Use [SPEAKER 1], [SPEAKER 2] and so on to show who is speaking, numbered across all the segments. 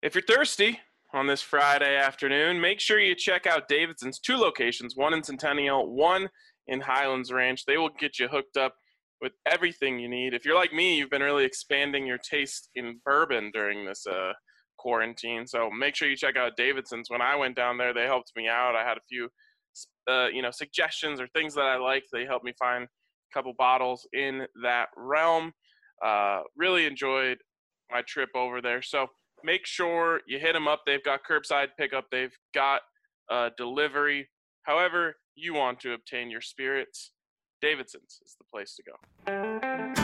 [SPEAKER 1] If you're thirsty on this Friday afternoon, make sure you check out Davidson's two locations, one in Centennial, one in Highlands Ranch. They will get you hooked up with everything you need. If you're like me, you've been really expanding your taste in bourbon during this quarantine. So make sure you check out Davidson's. When I went down there, they helped me out. I had a few suggestions or things that I liked. They helped me find a couple bottles in that realm. Really enjoyed my trip over there. So make sure you hit them up. They've got curbside pickup. They've got delivery. However you want to obtain your spirits, Davidson's is the place to go.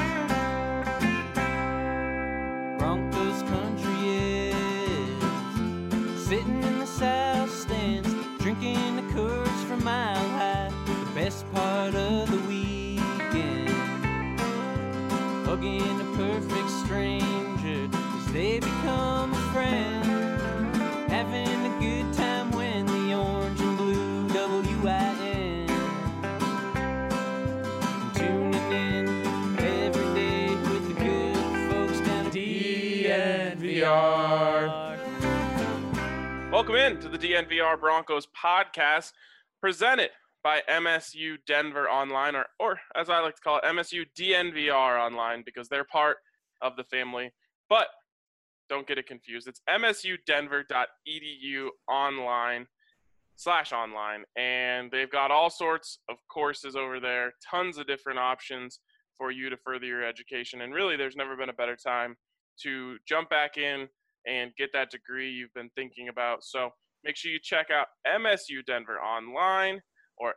[SPEAKER 2] Broncos country is sitting in the south stands, drinking the Coors from Mile High. The best part of the weekend, hugging a perfect stranger as they become a friend, having a good time when the orange and blue WIN, tuning in every day with the good folks down at DNVR.
[SPEAKER 1] Welcome in to the DNVR Broncos podcast, presented by MSU Denver Online, or as I like to call it, MSU DNVR Online, because they're part of the family. But don't get it confused. It's msudenver.edu online /online, and they've got all sorts of courses over there, tons of different options for you to further your education. And really, there's never been a better time to jump back in and get that degree you've been thinking about. So make sure you check out MSU Denver Online or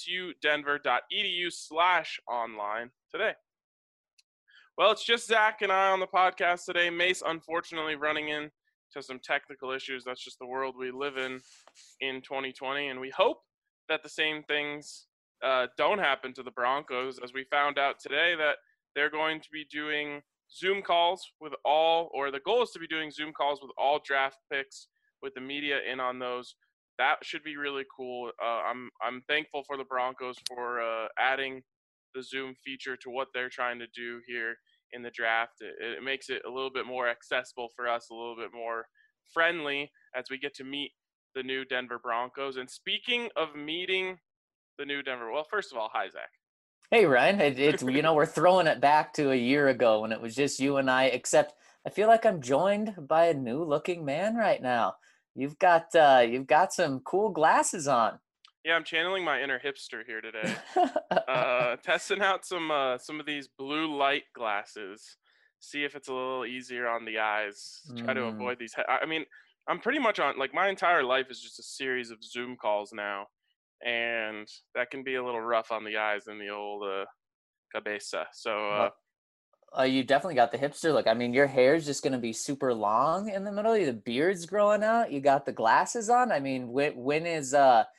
[SPEAKER 1] msudenver.edu/online today. Well, it's just Zach and I on the podcast today. Mace, unfortunately, running into some technical issues. That's just the world we live in 2020. And we hope that the same things don't happen to the Broncos, as we found out today that they're going to be doing Zoom calls with all, or the goal is to be doing Zoom calls with all draft picks with the media in on those. That should be really cool. I'm thankful for the Broncos for adding the Zoom feature to what they're trying to do here in the draft. It makes it a little bit more accessible for us, a little bit more friendly as we get to meet the new Denver Broncos. And speaking of meeting the new Denver, well, first of all, hi, Zach.
[SPEAKER 3] Hey, Ryan. It's we're throwing it back to a year ago when it was just you and I, except I feel like I'm joined by a new-looking man right now. You've got some cool glasses on.
[SPEAKER 1] Yeah, I'm channeling my inner hipster here today. Testing out some of these blue light glasses. See if it's a little easier on the eyes. Try to avoid these. I mean, I'm pretty much on, like, my entire life is just a series of Zoom calls now. And that can be a little rough on the eyes in the old cabeza. So
[SPEAKER 3] you definitely got the hipster look. I mean, your hair's just going to be super long in the middle. The beard's growing out. You got the glasses on. I mean, when is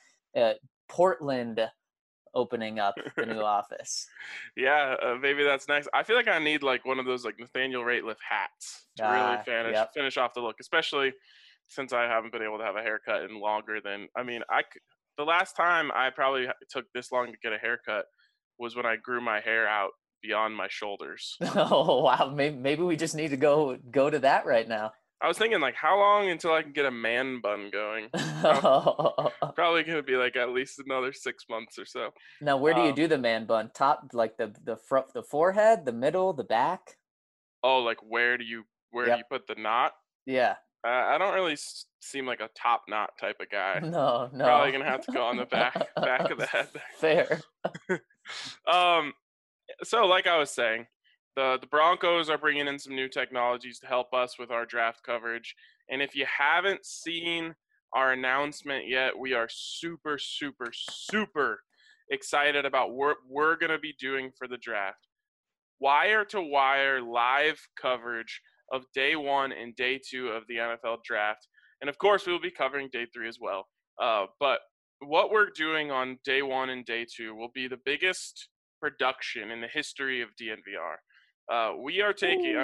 [SPEAKER 3] Portland opening up the new office?
[SPEAKER 1] Yeah, maybe that's next. I feel like I need like one of those like Nathaniel Rateliff hats to really finish off the look, especially since I haven't been able to have a haircut in longer than, the last time I probably took this long to get a haircut was when I grew my hair out beyond my shoulders.
[SPEAKER 3] Oh, wow. Maybe we just need to go to that right now.
[SPEAKER 1] I was thinking, like, how long until I can get a man bun going? Probably going to be like at least another 6 months or so.
[SPEAKER 3] Now, where do you do the man bun? Top, like the front, the forehead, the middle, the back?
[SPEAKER 1] Oh, like where do you put the knot?
[SPEAKER 3] Yeah.
[SPEAKER 1] I don't really seem like a top knot type of guy.
[SPEAKER 3] No.
[SPEAKER 1] Probably gonna have to go on the back of the head.
[SPEAKER 3] Fair.
[SPEAKER 1] So like I was saying, the Broncos are bringing in some new technologies to help us with our draft coverage. And if you haven't seen our announcement yet, we are super, super, super excited about what we're gonna be doing for the draft. Wire-to-wire live coverage of day 1 and day 2 of the NFL draft. And of course, we will be covering day 3 as well. But what we're doing on day 1 and day 2 will be the biggest production in the history of DNVR. We are taking,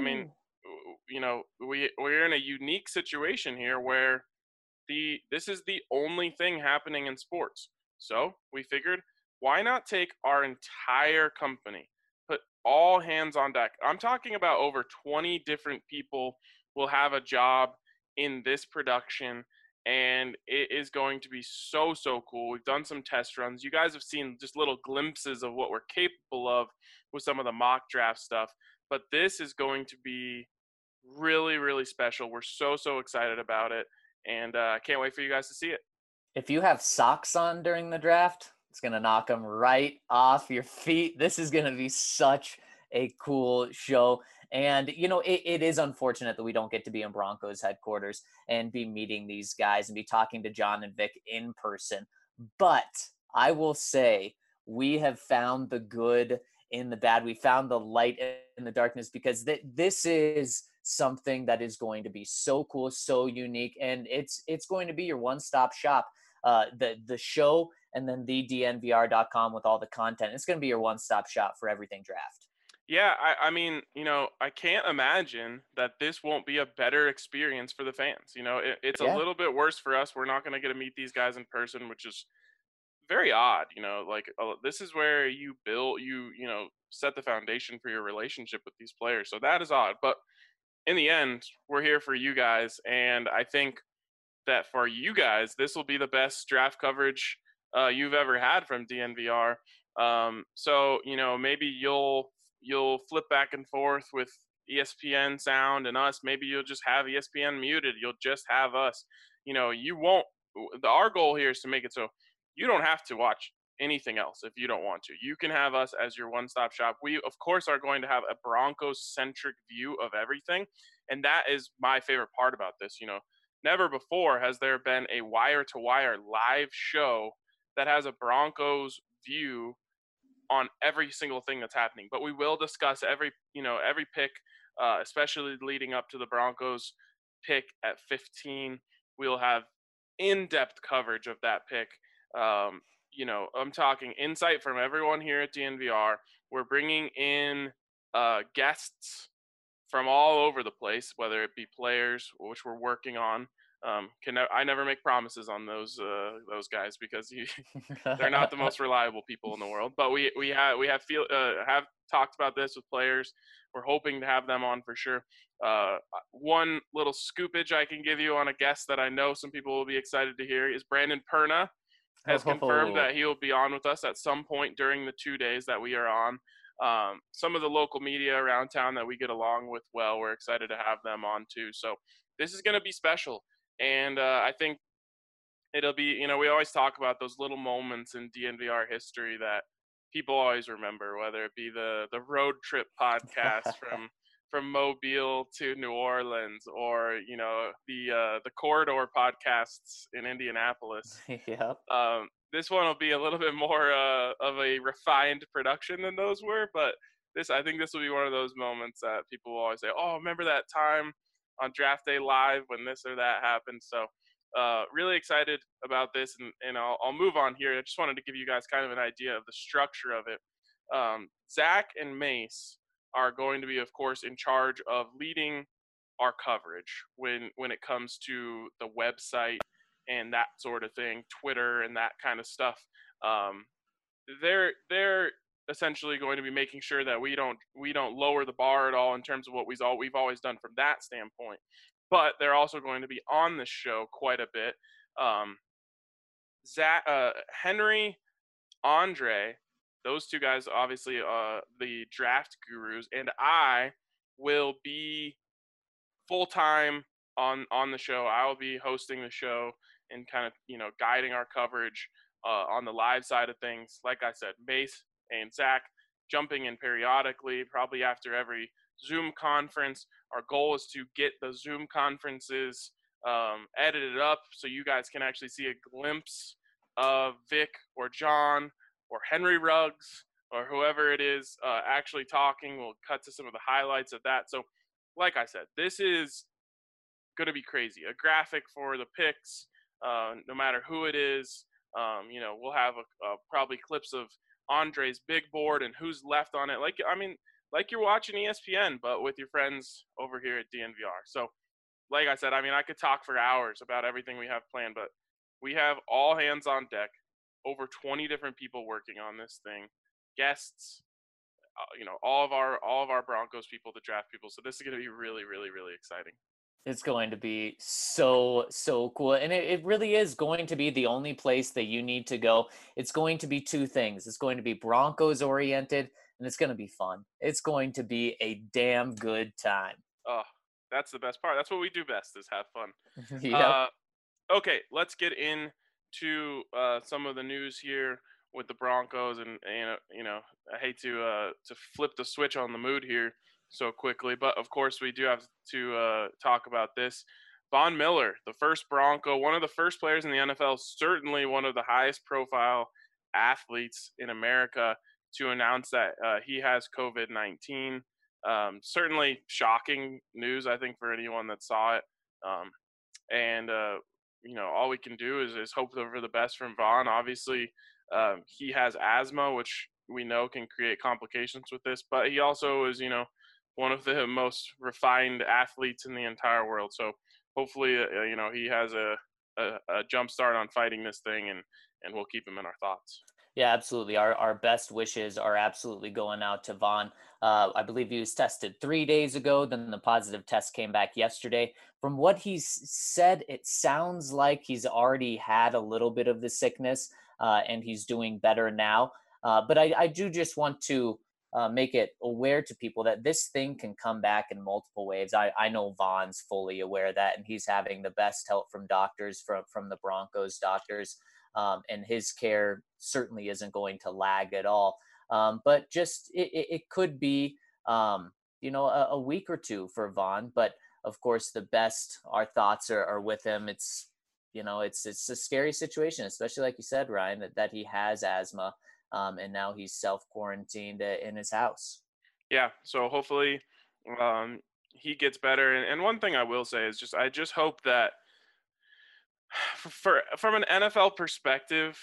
[SPEAKER 1] we're in a unique situation here where this is the only thing happening in sports. So we figured, why not take our entire company, put all hands on deck. I'm talking about over 20 different people will have a job in this production, and it is going to be so, so cool. We've done some test runs. You guys have seen just little glimpses of what we're capable of with some of the mock draft stuff, but this is going to be really, really special. We're so, so excited about it, and I can't wait for you guys to see it.
[SPEAKER 3] If you have socks on during the draft, it's going to knock them right off your feet. This is going to be such a cool show. And, you know, it is unfortunate that we don't get to be in Broncos headquarters and be meeting these guys and be talking to John and Vic in person. But I will say we have found the good in the bad. We found the light in the darkness, because this is something that is going to be so cool, so unique, and it's going to be your one-stop shop. The show, and then the DNVR.com with all the content. It's going to be your one-stop shop for everything draft.
[SPEAKER 1] Yeah, I mean, you know, I can't imagine that this won't be a better experience for the fans. You know, it's a
[SPEAKER 3] Yeah.
[SPEAKER 1] little bit worse for us. We're not going to get to meet these guys in person, which is very odd. You know, like this is where you build, you know, set the foundation for your relationship with these players. So that is odd. But in the end, we're here for you guys, and I think that for you guys, this will be the best draft coverage you've ever had from DNVR. So you know, maybe you'll flip back and forth with ESPN sound and us. Maybe you'll just have ESPN muted. You'll just have us. You know, you won't. Our goal here is to make it so you don't have to watch anything else if you don't want to. You can have us as your one-stop shop. We, of course, are going to have a Broncos-centric view of everything, and that is my favorite part about this. You know, never before has there been a wire-to-wire live show that has a Broncos view on every single thing that's happening. But we will discuss every pick, especially leading up to the Broncos pick at 15. We'll have in-depth coverage of that pick. You know, I'm talking insight from everyone here at DNVR. We're bringing in guests from all over the place, whether it be players, which we're working on. I never make promises on those guys, because they're not the most reliable people in the world. But we have talked about this with players. We're hoping to have them on for sure. One little scoopage I can give you on a guest that I know some people will be excited to hear is Brandon Perna has confirmed that he will be on with us at some point during the 2 days that we are on. Some of the local media around town that we get along with well, we're excited to have them on too. So this is going to be special. And I think it'll be, you know, we always talk about those little moments in DNVR history that people always remember, whether it be the road trip podcast from Mobile to New Orleans, or, you know, the corridor podcasts in Indianapolis.
[SPEAKER 3] Yep.
[SPEAKER 1] This one will be a little bit more of a refined production than those were, but I think this will be one of those moments that people will always say, "Oh, remember that time on draft day live when this or that happened?" So really excited about this, and I'll move on here. I just wanted to give you guys kind of an idea of the structure of it. Zach and Mace are going to be, of course, in charge of leading our coverage when it comes to the website and that sort of thing, Twitter and that kind of stuff. They're essentially going to be making sure that we don't lower the bar at all in terms of what we've always done from that standpoint. But they're also going to be on the show quite a bit. Henry, Andre, those two guys, obviously, the draft gurus, and I will be full-time on the show. I will be hosting the show and kind of, you know, guiding our coverage on the live side of things. Like I said, Mace and Zach jumping in periodically, probably after every Zoom conference. Our goal is to get the Zoom conferences edited up so you guys can actually see a glimpse of Vic or John or Henry Ruggs or whoever it is actually talking. We'll cut to some of the highlights of that. So like I said, this is going to be crazy. A graphic for the picks, no matter who it is. You know, we'll have probably clips of Andre's big board and who's left on it. Like you're watching ESPN, but with your friends over here at DNVR. So, like I said, I mean, I could talk for hours about everything we have planned, but we have all hands on deck. Over 20 different people working on this thing, guests, you know, all of our Broncos people, the draft people. So this is going to be really, really, really exciting.
[SPEAKER 3] It's going to be so, so cool. And it really is going to be the only place that you need to go. It's going to be two things. It's going to be Broncos oriented and it's going to be fun. It's going to be a damn good time.
[SPEAKER 1] Oh, that's the best part. That's what we do best is have fun.
[SPEAKER 3] Yep.
[SPEAKER 1] Okay, let's get into some of the news here with the Broncos, and I hate to flip the switch on the mood here so quickly, but of course we do have to talk about this. Von Miller, the first Bronco, one of the first players in the NFL, certainly one of the highest profile athletes in America, to announce that he has COVID-19. Certainly shocking news, I think, for anyone that saw it. And all we can do is hope for the best from Von. Obviously, he has asthma, which we know can create complications with this, but he also is, one of the most refined athletes in the entire world. So hopefully, he has a jump start on fighting this thing, and we'll keep him in our thoughts.
[SPEAKER 3] Yeah, absolutely. Our best wishes are absolutely going out to Von. I believe he was tested 3 days ago. Then the positive test came back yesterday. From what he's said, it sounds like he's already had a little bit of the sickness and he's doing better now. But I do just want to make it aware to people that this thing can come back in multiple waves. I know Von's fully aware of that, and he's having the best help from doctors, from the Broncos doctors. And his care certainly isn't going to lag at all. But just it could be, a week or two for Von. But of course, our thoughts are with him. It's a scary situation, especially like you said, Ryan, that he has asthma, and now he's self-quarantined in his house.
[SPEAKER 1] Yeah, so hopefully he gets better. And one thing I will say is I just hope that from an NFL perspective,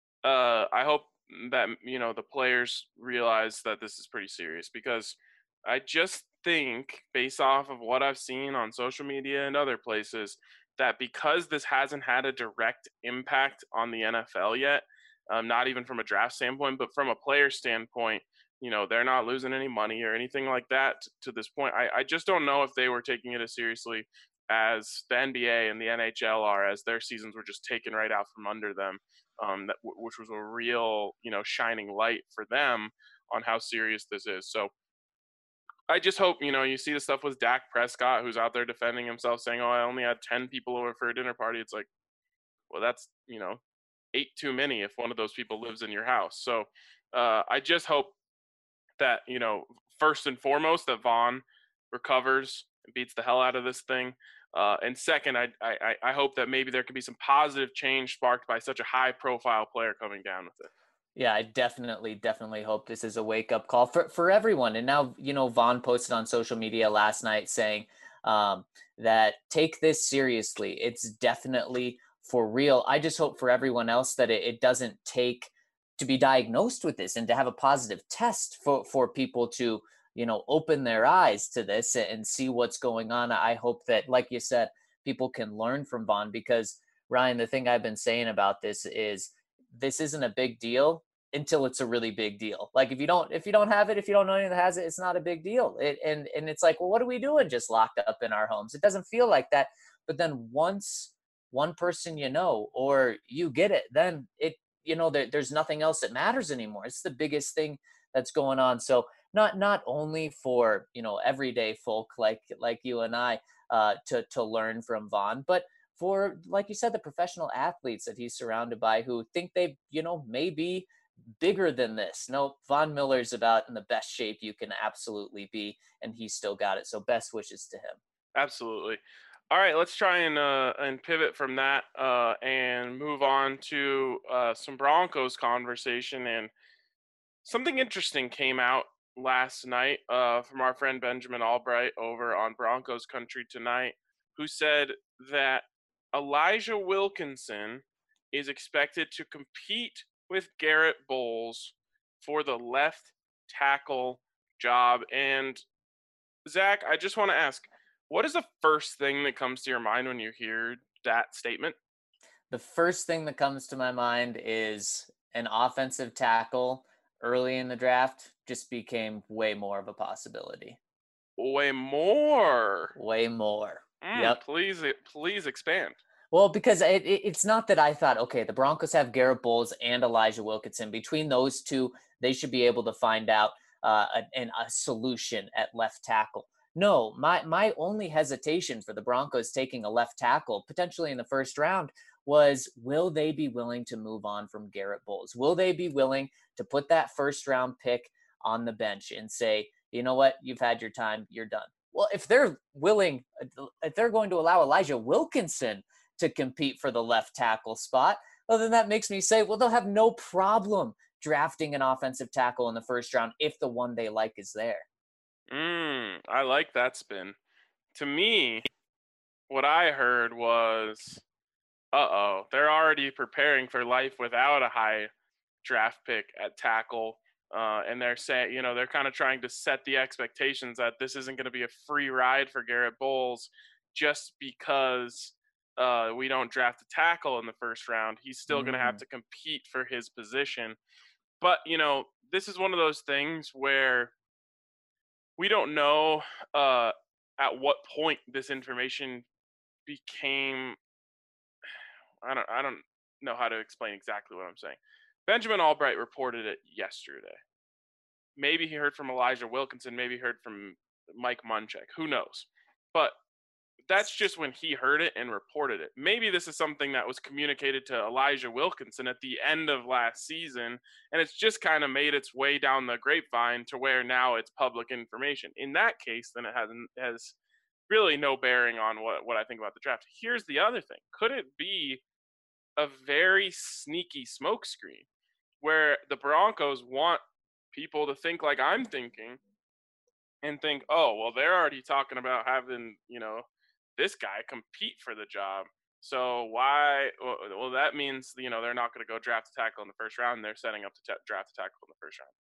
[SPEAKER 1] I hope that the players realize that this is pretty serious, because I just think, based off of what I've seen on social media and other places, that because this hasn't had a direct impact on the NFL yet, not even from a draft standpoint, but from a player standpoint, they're not losing any money or anything like that to this point. I just don't know if they were taking it as seriously as the NBA and the NHL are, as their seasons were just taken right out from under them, which was a real, shining light for them on how serious this is. So I just hope, you see the stuff with Dak Prescott, who's out there defending himself, saying, "Oh, I only had 10 people over for a dinner party." It's like, well, that's, 8 too many if one of those people lives in your house. So I just hope that, first and foremost, that Von recovers and beats the hell out of this thing. And second, I hope that maybe there could be some positive change sparked by such a high-profile player coming down with it.
[SPEAKER 3] Yeah, I definitely hope this is a wake-up call for everyone. And now, Von posted on social media last night saying that take this seriously. It's definitely for real. I just hope for everyone else that it doesn't take to be diagnosed with this and to have a positive test for people to, open their eyes to this and see what's going on. I hope that, like you said, people can learn from Von, because Ryan, the thing I've been saying about this is this isn't a big deal until it's a really big deal. Like if you don't have it, if you don't know anyone that has it, it's not a big deal. And it's like, well, what are we doing just locked up in our homes? It doesn't feel like that. But then once one person or you get it, then there's nothing else that matters anymore. It's the biggest thing that's going on. So not only for everyday folk like you and I to learn from Von, but for, like you said, the professional athletes that he's surrounded by who think they may be bigger than this. No, Von Miller's about in the best shape you can absolutely be, and he's still got it. So best wishes to him.
[SPEAKER 1] Absolutely. All right, let's try and pivot from that and move on to some Broncos conversation. And something interesting came out last night from our friend Benjamin Albright over on Broncos Country Tonight, who said that Elijah Wilkinson is expected to compete with Garrett Bowles for the left tackle job. And Zach, I just want to ask, what is the first thing that comes to your mind when you hear that statement?
[SPEAKER 3] The first thing that comes to my mind is an offensive tackle early in the draft just became way more of a possibility.
[SPEAKER 1] Way more.
[SPEAKER 3] Way more. Yep.
[SPEAKER 1] Please expand.
[SPEAKER 3] Well, because it's not that I thought, okay, the Broncos have Garrett Bowles and Elijah Wilkinson. Between those two, they should be able to find out a solution at left tackle. No, my only hesitation for the Broncos taking a left tackle, potentially in the first round, was will they be willing to move on from Garrett Bowles? Will they be willing to put that first round pick on the bench and say, you know what, you've had your time, you're done? Well, if they're willing, if they're going to allow Elijah Wilkinson to compete for the left tackle spot, well, then that makes me say, well, they'll have no problem drafting an offensive tackle in the first round if the one they like is there.
[SPEAKER 1] I like that spin. To me, what I heard was, they're already preparing for life without a high draft pick at tackle. And they're saying, they're kind of trying to set the expectations that this isn't going to be a free ride for Garrett Bowles just because we don't draft a tackle in the first round. He's still going to have to compete for his position. But, this is one of those things where we don't know at what point this information became. I don't know how to explain exactly what I'm saying. Benjamin Albright reported it yesterday. Maybe he heard from Elijah Wilkinson. Maybe he heard from Mike Munchak. Who knows? But that's just when he heard it and reported it. Maybe this is something that was communicated to Elijah Wilkinson at the end of last season, and it's just kind of made its way down the grapevine to where now it's public information. In that case, then it has really no bearing on what I think about the draft. Here's the other thing. Could it be a very sneaky smokescreen where the Broncos want people to think like I'm thinking and think, oh, well, they're already talking about having, this guy compete for the job. So why? Well, that means, they're not going to go draft a tackle in the first round. And they're setting up to draft a tackle in the first round.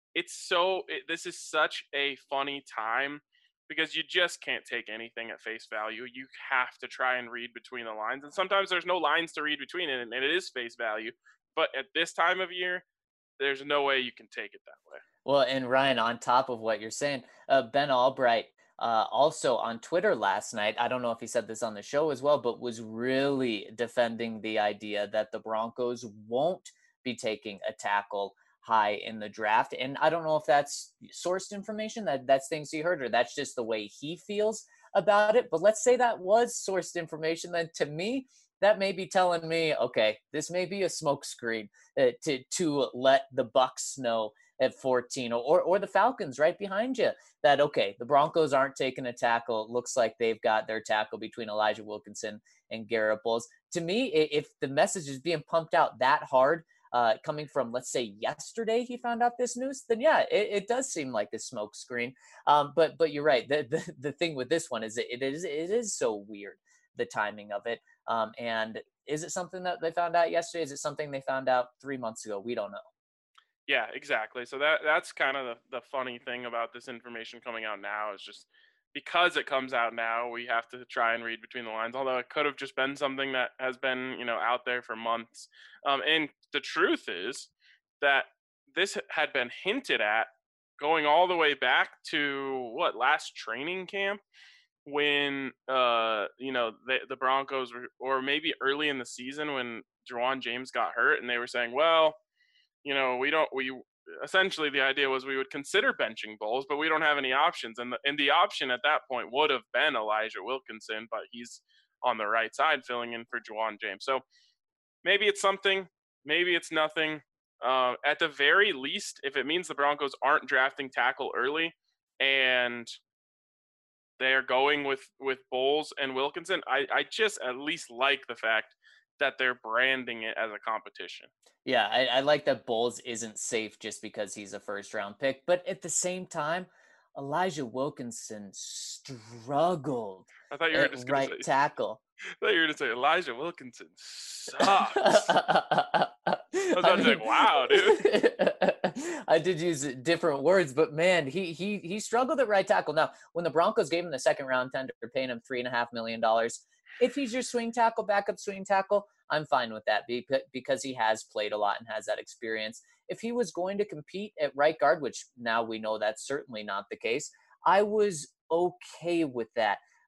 [SPEAKER 1] This is such a funny time because you just can't take anything at face value. You have to try and read between the lines. And sometimes there's no lines to read between it, and it is face value. But at this time of year, there's no way you can take it that way.
[SPEAKER 3] Well, and Ryan, on top of what you're saying, Ben Albright also on Twitter last night, I don't know if he said this on the show as well, but was really defending the idea that the Broncos won't be taking a tackle high in the draft. And I don't know if that's sourced information, that's things he heard, or that's just the way he feels about it. But let's say that was sourced information, then to me, that may be telling me, okay, this may be a smokescreen to let the Bucs know at 14 or the Falcons right behind you that, okay, the Broncos aren't taking a tackle. It looks like they've got their tackle between Elijah Wilkinson and Garrett Bowles. To me, if the message is being pumped out that hard, coming from, let's say, yesterday he found out this news, then yeah, it does seem like a smoke screen. But you're right. The thing with this one is it is so weird, the timing of it. And is it something that they found out yesterday? Is it something they found out 3 months ago? We don't know.
[SPEAKER 1] Yeah, exactly. So that's kind of the funny thing about this information coming out now is just because it comes out now, we have to try and read between the lines, although it could have just been something that has been, out there for months. And the truth is that this had been hinted at going all the way back to last training camp when, the Broncos were, or maybe early in the season when Ja'Wuan James got hurt and they were saying, well, essentially the idea was we would consider benching Bowles, but we don't have any options. And the option at that point would have been Elijah Wilkinson, but he's on the right side filling in for Ja'Wuan James. So maybe it's something, maybe it's nothing. At the very least, if it means the Broncos aren't drafting tackle early and they are going with Bowles and Wilkinson, I just at least like the fact that they're branding it as a competition.
[SPEAKER 3] Yeah, I like that Bowles isn't safe just because he's a first-round pick. But at the same time, Elijah Wilkinson struggled
[SPEAKER 1] I thought you were
[SPEAKER 3] at
[SPEAKER 1] just
[SPEAKER 3] right
[SPEAKER 1] going to say,
[SPEAKER 3] tackle.
[SPEAKER 1] I thought you were going to say Elijah Wilkinson sucks. I was about to say, wow, dude.
[SPEAKER 3] I did use different words, but man, he struggled at right tackle. Now, when the Broncos gave him the second-round tender, paying him $3.5 million, if he's your swing tackle, backup swing tackle, I'm fine with that because he has played a lot and has that experience. If he was going to compete at right guard, which now we know that's certainly not the case, I was okay with that.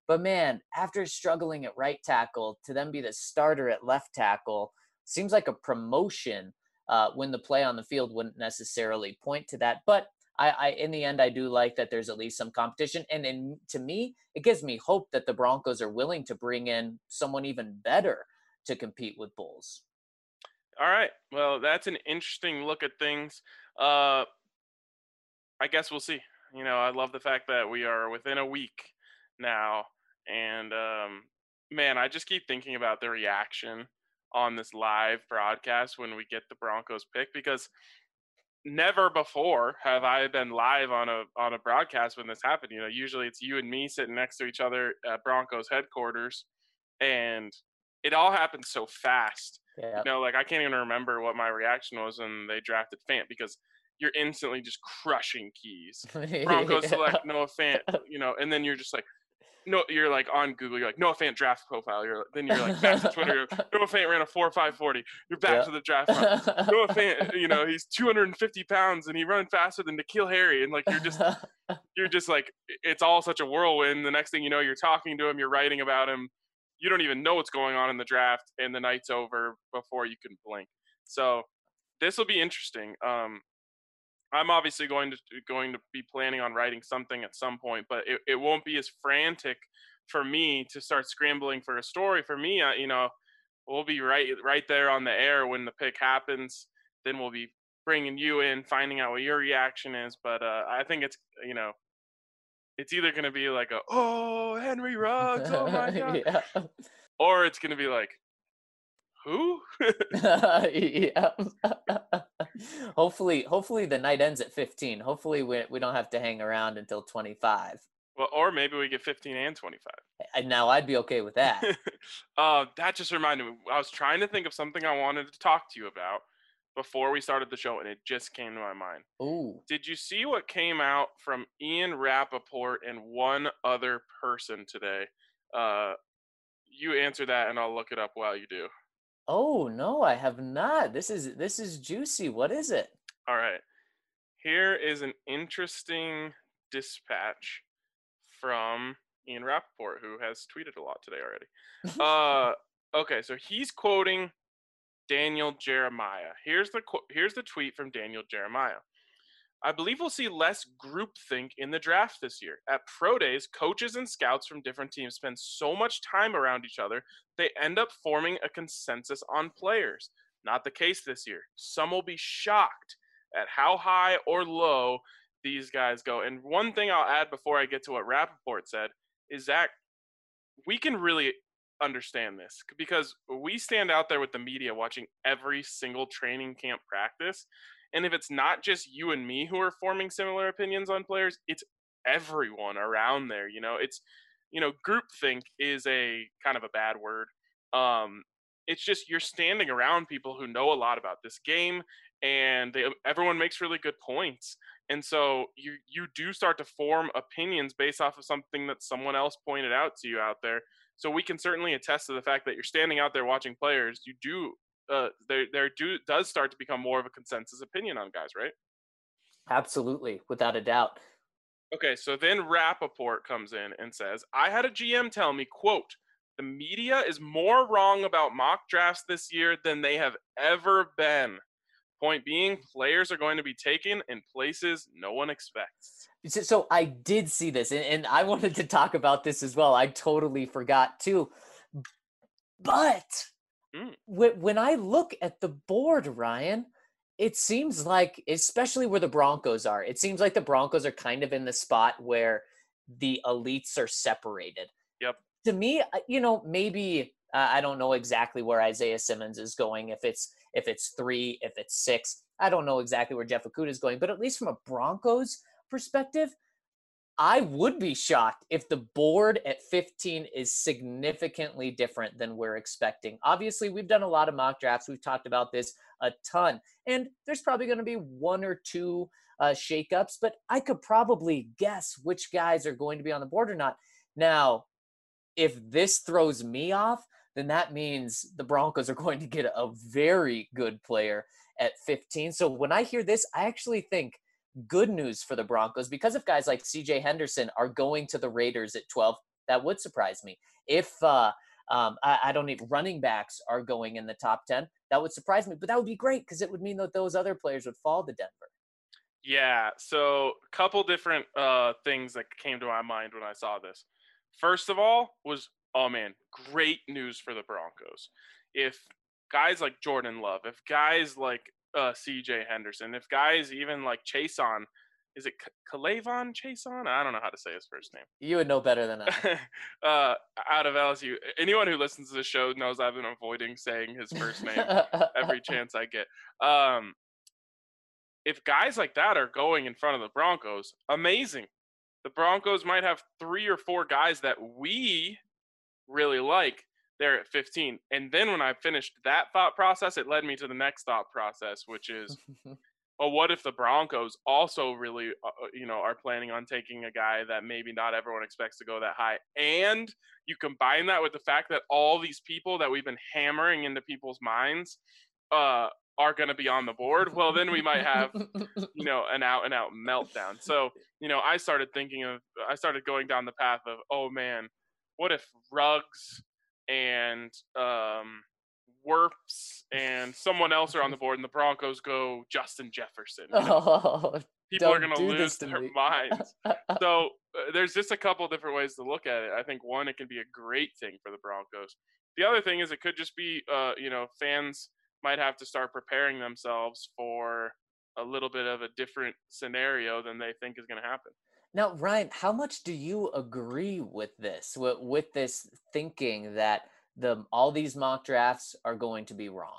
[SPEAKER 3] But man, after struggling at right tackle to then be the starter at left tackle, seems like a promotion when the play on the field wouldn't necessarily point to that. But in the end, I do like that there's at least some competition. And to me, it gives me hope that the Broncos are willing to bring in someone even better to compete with Bulls.
[SPEAKER 1] All right. Well, that's an interesting look at things. I guess we'll see. I love the fact that we are within a week now. And man, I just keep thinking about the reaction on this live broadcast when we get the Broncos pick, because never before have I been live on a broadcast when this happened. Usually it's you and me sitting next to each other at Broncos headquarters, and it all happened so fast.
[SPEAKER 3] Yeah.
[SPEAKER 1] Like I can't even remember what my reaction was when they drafted Fant, because you're instantly just crushing keys. Broncos select Noah Fant, and then you're just like, no, you're like on Google, you're like Noah Fant draft profile. Then you're like back to Twitter. Noah Fant ran a 4.540. You're back to the draft front. Noah Fant, he's 250 pounds and he runs faster than N'Keal Harry. And like you're just like, it's all such a whirlwind. The next thing you know, you're talking to him, you're writing about him. You don't even know what's going on in the draft, and the night's over before you can blink. So this will be interesting. I'm obviously going to be planning on writing something at some point, but it won't be as frantic for me to start scrambling for a story. For me, we'll be right there on the air when the pick happens. Then we'll be bringing you in, finding out what your reaction is. But I think it's it's either going to be like Henry Ruggs, oh my God,
[SPEAKER 3] yeah.
[SPEAKER 1] or it's going to be like, who?
[SPEAKER 3] Yeah. Hopefully the night ends at 15. Hopefully we don't have to hang around until 25.
[SPEAKER 1] Well, or maybe we get 15 and 25.
[SPEAKER 3] And now I'd be okay with that.
[SPEAKER 1] That just reminded me. I was trying to think of something I wanted to talk to you about before we started the show, and it just came to my mind.
[SPEAKER 3] Ooh.
[SPEAKER 1] Did you see what came out from Ian Rappaport and one other person today? You answer that, and I'll look it up while you do.
[SPEAKER 3] Oh, no, I have not. This is juicy. What is it?
[SPEAKER 1] All right. Here is an interesting dispatch from Ian Rappaport, who has tweeted a lot today already. Okay, so he's quoting Daniel Jeremiah. Here's the tweet from Daniel Jeremiah. I believe we'll see less groupthink in the draft this year. At pro days, coaches and scouts from different teams spend so much time around each other, they end up forming a consensus on players. Not the case this year. Some will be shocked at how high or low these guys go. And one thing I'll add before I get to what Rappaport said is that we can really understand this, because we stand out there with the media watching every single training camp practice. And if it's not just you and me who are forming similar opinions on players, it's everyone around there. It's, groupthink is a kind of a bad word. It's just you're standing around people who know a lot about this game, and everyone makes really good points. And so you do start to form opinions based off of something that someone else pointed out to you out there. So we can certainly attest to the fact that you're standing out there watching players. You do. Does start to become more of a consensus opinion on guys, right?
[SPEAKER 3] Absolutely, without a doubt.
[SPEAKER 1] Okay, so then Rappaport comes in and says, I had a GM tell me, quote, the media is more wrong about mock drafts this year than they have ever been. Point being, players are going to be taken in places no one expects.
[SPEAKER 3] So I did see this, and I wanted to talk about this as well. I totally forgot too. But when I look at the board, Ryan, it seems like, especially where the Broncos are, it seems like the Broncos are kind of in the spot where the elites are separated.
[SPEAKER 1] Yep.
[SPEAKER 3] To me, maybe I don't know exactly where Isaiah Simmons is going. If it's 3, if it's 6, I don't know exactly where Jeff Okudah is going. But at least from a Broncos perspective, I would be shocked if the board at 15 is significantly different than we're expecting. Obviously, we've done a lot of mock drafts. We've talked about this a ton. And there's probably going to be 1 or 2 shakeups, but I could probably guess which guys are going to be on the board or not. Now, if this throws me off, then that means the Broncos are going to get a very good player at 15. So when I hear this, I actually think good news for the Broncos, because if guys like CJ Henderson are going to the Raiders at 12, That would surprise me. If I don't need running backs are going in the top 10, that would surprise me. But that would be great because it would mean that those other players would fall to Denver.
[SPEAKER 1] Yeah, so a couple different things that came to my mind when I saw this. First of all was, oh man, great news for the Broncos. If guys like Jordan Love, if guys like CJ Henderson, if guys even like Chason, is it Kalavon Chason? I don't know how to say his first name.
[SPEAKER 3] You would know better than I.
[SPEAKER 1] Out of LSU, anyone who listens to the show knows I've been avoiding saying his first name every chance I get. If guys like that are going in front of the Broncos, amazing. The Broncos might have 3 or 4 guys that we really like there at 15. And then when I finished that thought process, it led me to the next thought process, which is, well, what if the Broncos also really, are planning on taking a guy that maybe not everyone expects to go that high? And you combine that with the fact that all these people that we've been hammering into people's minds are going to be on the board. Well, then we might have, an out and out meltdown. So, I started going down the path of, oh man, what if Ruggs and Wirfs and someone else are on the board and the Broncos go Justin Jefferson? People are going to lose their minds. So there's just a couple different ways to look at it. I think one, it can be a great thing for the Broncos. The other thing is it could just be, fans might have to start preparing themselves for a little bit of a different scenario than they think is going to happen.
[SPEAKER 3] Now, Ryan, how much do you agree with this thinking that all these mock drafts are going to be wrong?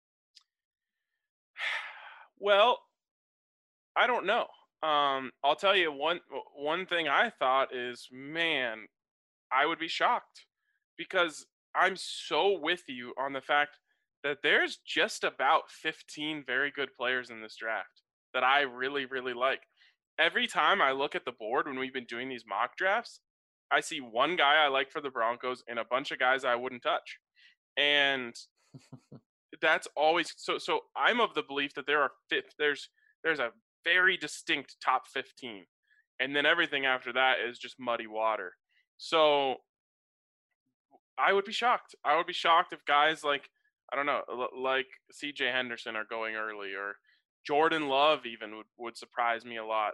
[SPEAKER 1] Well, I don't know. I'll tell you one thing I thought is, man, I would be shocked because I'm so with you on the fact that there's just about 15 very good players in this draft that I really, really like. Every time I look at the board when we've been doing these mock drafts, I see one guy I like for the Broncos and a bunch of guys I wouldn't touch. And that's always so I'm of the belief that there's a very distinct top 15. And then everything after that is just muddy water. So I would be shocked. I would be shocked if guys like, I don't know, like CJ Henderson are going early, or Jordan Love even would surprise me a lot.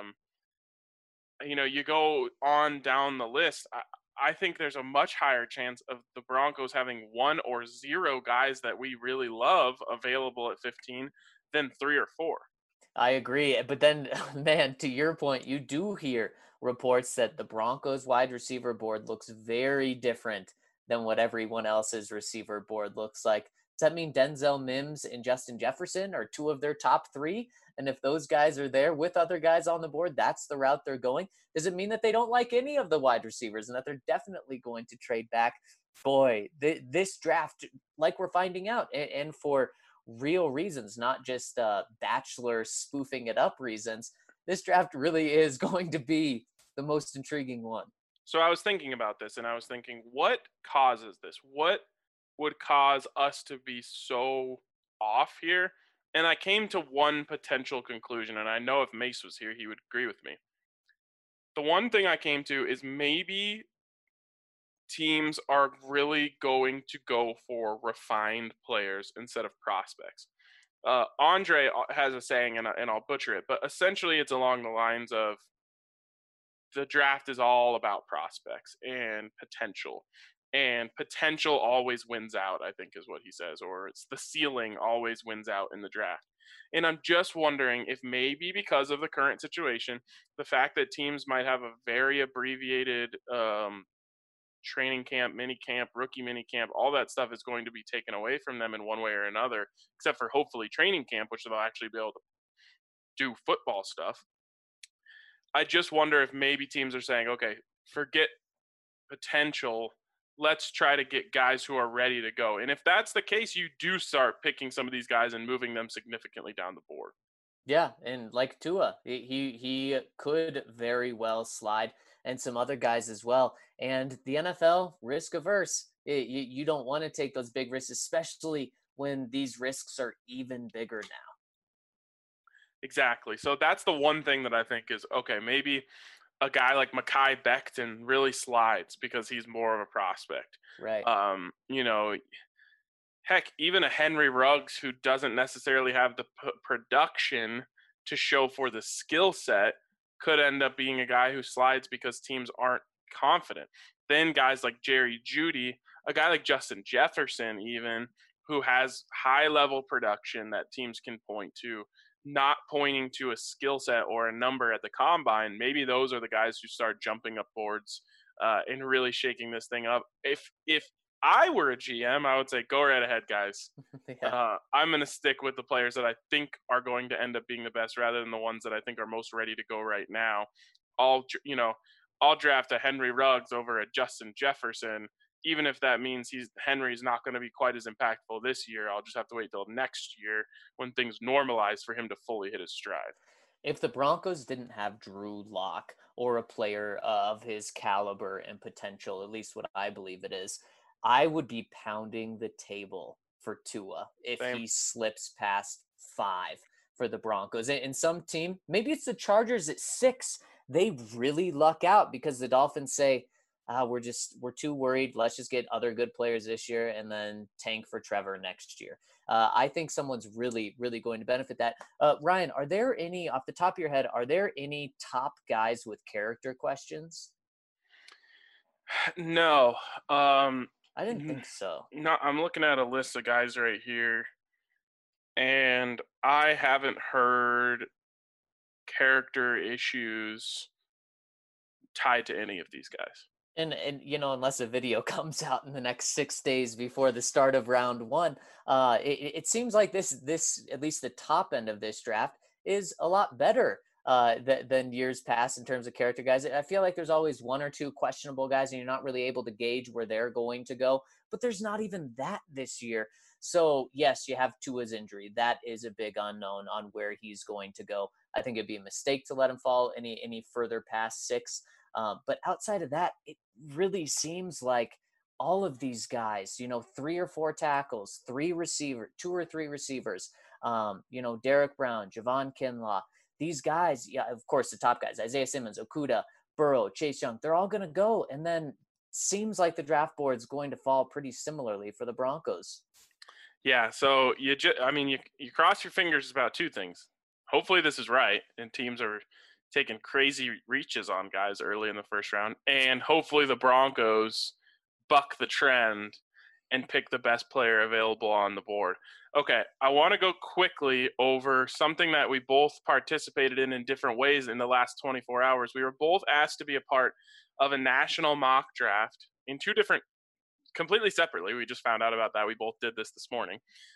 [SPEAKER 1] You go on down the list, I think there's a much higher chance of the Broncos having 1 or 0 guys that we really love available at 15 than 3 or 4.
[SPEAKER 3] I agree. But then, man, to your point, you do hear reports that the Broncos wide receiver board looks very different than what everyone else's receiver board looks like. Does that mean Denzel Mims and Justin Jefferson are 2 of their top 3? And if those guys are there with other guys on the board, that's the route they're going? Does it mean that they don't like any of the wide receivers and that they're definitely going to trade back? Boy, this draft, like we're finding out, and for real reasons, not just Bachelor spoofing it up reasons, this draft really is going to be the most intriguing one.
[SPEAKER 1] So I was thinking about this, and I was thinking, what causes this? What would cause us to be so off here? And I came to one potential conclusion, and I know if Mace was here, he would agree with me. The one thing I came to is maybe teams are really going to go for refined players instead of prospects. Andre has a saying, and I'll butcher it, but essentially it's along the lines of, the draft is all about prospects and potential. And potential always wins out, I think is what he says, or it's the ceiling always wins out in the draft. And I'm just wondering if maybe because of the current situation, the fact that teams might have a very abbreviated training camp, mini camp, rookie mini camp, all that stuff is going to be taken away from them in one way or another, except for hopefully training camp, which they'll actually be able to do football stuff. I just wonder if maybe teams are saying, okay, forget potential. Let's try to get guys who are ready to go. And if that's the case, you do start picking some of these guys and moving them significantly down the board.
[SPEAKER 3] Yeah, and like Tua, he could very well slide, and some other guys as well. And the NFL, risk averse. You don't want to take those big risks, especially when these risks are even bigger now.
[SPEAKER 1] Exactly. So that's the one thing that I think is, okay, maybe a guy like Mekhi Becton really slides because he's more of a prospect.
[SPEAKER 3] Right.
[SPEAKER 1] You know, heck, even a Henry Ruggs who doesn't necessarily have the production to show for the skill set could end up being a guy who slides because teams aren't confident. Then guys like Jerry Jeudy, a guy like Justin Jefferson even, who has high level production that teams can point to, not pointing to a skill set or a number at the combine, maybe those are the guys who start jumping up boards and really shaking this thing up. If I were a GM, I would say go right ahead, guys.
[SPEAKER 3] Yeah.
[SPEAKER 1] I'm going to stick with the players that I think are going to end up being the best rather than the ones that I think are most ready to go right now. I'll draft a Henry Ruggs over a Justin Jefferson, even if that means Henry's not going to be quite as impactful this year. I'll just have to wait till next year when things normalize for him to fully hit his stride.
[SPEAKER 3] If the Broncos didn't have Drew Lock or a player of his caliber and potential, at least what I believe it is, I would be pounding the table for Tua if
[SPEAKER 1] Same.
[SPEAKER 3] he slips past 5 for the Broncos. And some team, maybe it's the Chargers at 6, they really luck out because the Dolphins say, we're too worried. Let's just get other good players this year and then tank for Trevor next year. I think someone's really, really going to benefit that. Ryan, are there any, off the top of your head, are there any top guys with character questions?
[SPEAKER 1] No.
[SPEAKER 3] I didn't think so.
[SPEAKER 1] No, I'm looking at a list of guys right here, and I haven't heard character issues tied to any of these guys.
[SPEAKER 3] And unless a video comes out in the next 6 days before the start of round 1, it seems like this at least the top end of this draft is a lot better than years past in terms of character guys. I feel like there's always 1 or 2 questionable guys, and you're not really able to gauge where they're going to go. But there's not even that this year. So yes, you have Tua's injury. That is a big unknown on where he's going to go. I think it'd be a mistake to let him fall any further past 6. But outside of that, it really seems like all of these guys, 3 or 4 tackles, 2 or 3 receivers, Derek Brown, Javon Kinlaw, these guys, yeah, of course, the top guys, Isaiah Simmons, Okudah, Burrow, Chase Young, they're all going to go. And then seems like the draft board's going to fall pretty similarly for the Broncos.
[SPEAKER 1] Yeah, so you cross your fingers about 2 things. Hopefully this is right, and teams are taking crazy reaches on guys early in the first round, and hopefully the Broncos buck the trend and pick the best player available on the board. Okay, I want to go quickly over something that we both participated in different ways in the last 24 hours. We were both asked to be a part of a national mock draft in 2 different, completely separately. We just found out about that. We both did this morning,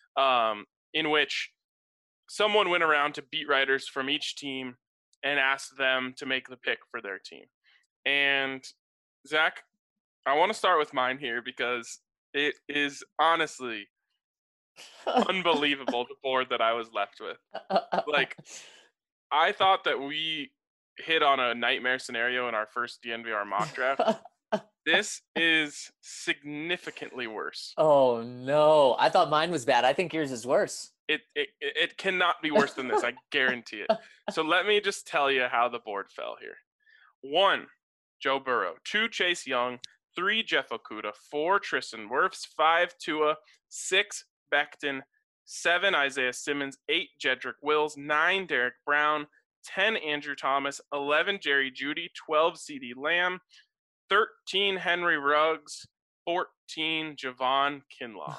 [SPEAKER 1] in which someone went around to beat writers from each team and asked them to make the pick for their team. And Zach, I want to start with mine here because it is honestly unbelievable the board that I was left with. Like, I thought that we hit on a nightmare scenario in our first DNVR mock draft. This is significantly worse.
[SPEAKER 3] Oh no, I thought mine was bad. I think yours is worse.
[SPEAKER 1] It cannot be worse than this. I guarantee it. So let me just tell you how the board fell here. 1, Joe Burrow. 2, Chase Young. 3, Jeff Okudah. 4, Tristan Wirfs. 5, Tua. 6, Becton. 7, Isaiah Simmons. 8, Jedrick Wills. 9, Derek Brown. 10, Andrew Thomas. 11, Jerry Jeudy. 12, CeeDee Lamb. 13, Henry Ruggs. 14, Javon Kinlaw.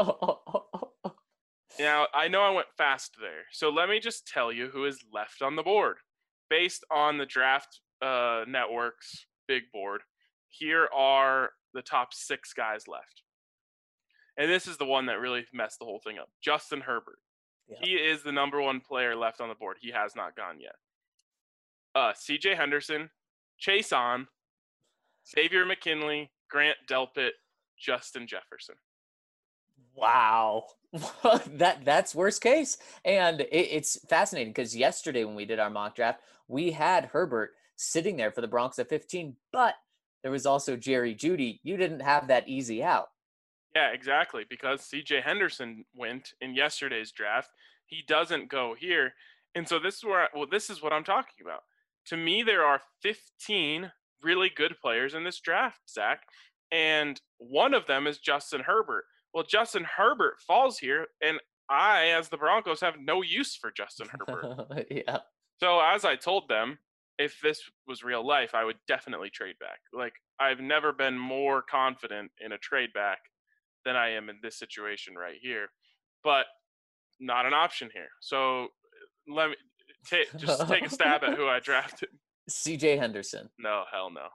[SPEAKER 1] Now, I know I went fast there, so let me just tell you who is left on the board. Based on the Draft Network's big board, here are the top 6 guys left. And this is the one that really messed the whole thing up. Justin Herbert. Yeah. He is the number 1 player left on the board. He has not gone yet. C.J. Henderson, Chase On, Xavier McKinley, Grant Delpit, Justin Jefferson.
[SPEAKER 3] Wow. That's worst case. And it's fascinating because yesterday when we did our mock draft, we had Herbert sitting there for the Broncos at 15, but there was also Jerry Jeudy. You didn't have that easy out.
[SPEAKER 1] Yeah, exactly. Because CJ Henderson went in yesterday's draft. He doesn't go here. And so this is what I'm talking about. to me, there are 15 really good players in this draft, Zach, and one of them is Justin Herbert. Well, Justin Herbert falls here, and I, as the Broncos, have no use for Justin Herbert.
[SPEAKER 3] Yeah.
[SPEAKER 1] So as I told them, if this was real life, I would definitely trade back. Like, I've never been more confident in a trade back than I am in this situation right here. But not an option here. So let me just take a stab at who I drafted.
[SPEAKER 3] CJ Henderson.
[SPEAKER 1] No, hell no.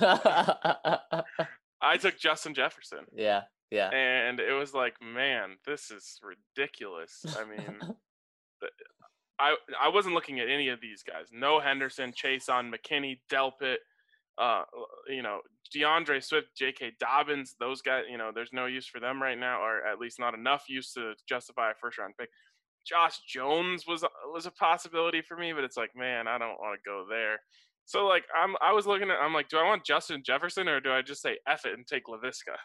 [SPEAKER 1] I took Justin Jefferson.
[SPEAKER 3] Yeah.
[SPEAKER 1] And it was like, man, this is ridiculous. I mean, I wasn't looking at any of these guys. No Henderson, Chason, McKinney, Delpit, DeAndre Swift, J.K. Dobbins. Those guys, there's no use for them right now, or at least not enough use to justify a first-round pick. Josh Jones was a possibility for me, but it's like, man, I don't want to go there. So like I was looking at, I'm like, do I want Justin Jefferson or do I just say F it and take LaVisca?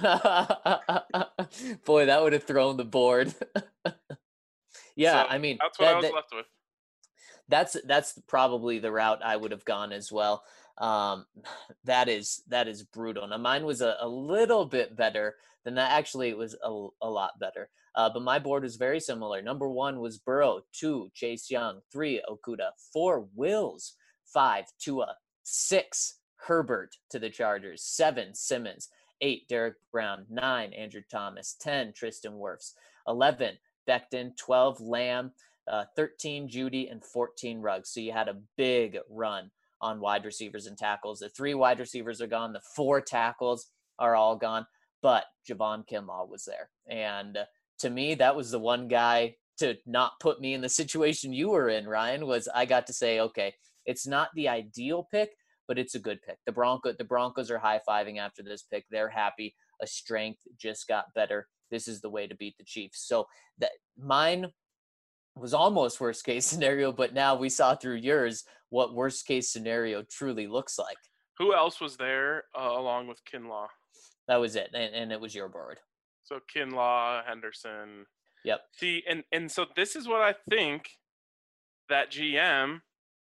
[SPEAKER 3] Boy, that would have thrown the board. Yeah,
[SPEAKER 1] So
[SPEAKER 3] I mean,
[SPEAKER 1] that's what I was left with.
[SPEAKER 3] That's probably the route I would have gone as well. That is brutal. Now mine was a little bit better than that. Actually, it was a lot better. But my board was very similar. Number 1 was Burrow, 2 Chase Young, 3 Okudah, 4 Wills, 5 Tua, 6 Herbert to the Chargers, 7 Simmons, 8 Derek Brown, 9 Andrew Thomas, 10 Tristan Wirfs, 11 Becton, 12 Lamb, 13 Judy, and 14 Ruggs. So you had a big run on wide receivers and tackles. The 3 wide receivers are gone. The 4 tackles are all gone. But Javon Kinlaw was there. And to me, that was the one guy to not put me in the situation you were in, Ryan, was I got to say, okay, it's not the ideal pick, but it's a good pick. The Broncos are high-fiving after this pick. They're happy. A strength just got better. This is the way to beat the Chiefs. So that mine was almost worst case scenario, but now we saw through yours what worst case scenario truly looks like.
[SPEAKER 1] Who else was there along with Kinlaw?
[SPEAKER 3] That was it, and it was your board.
[SPEAKER 1] So Kinlaw, Henderson.
[SPEAKER 3] Yep.
[SPEAKER 1] See, and so this is what I think that GM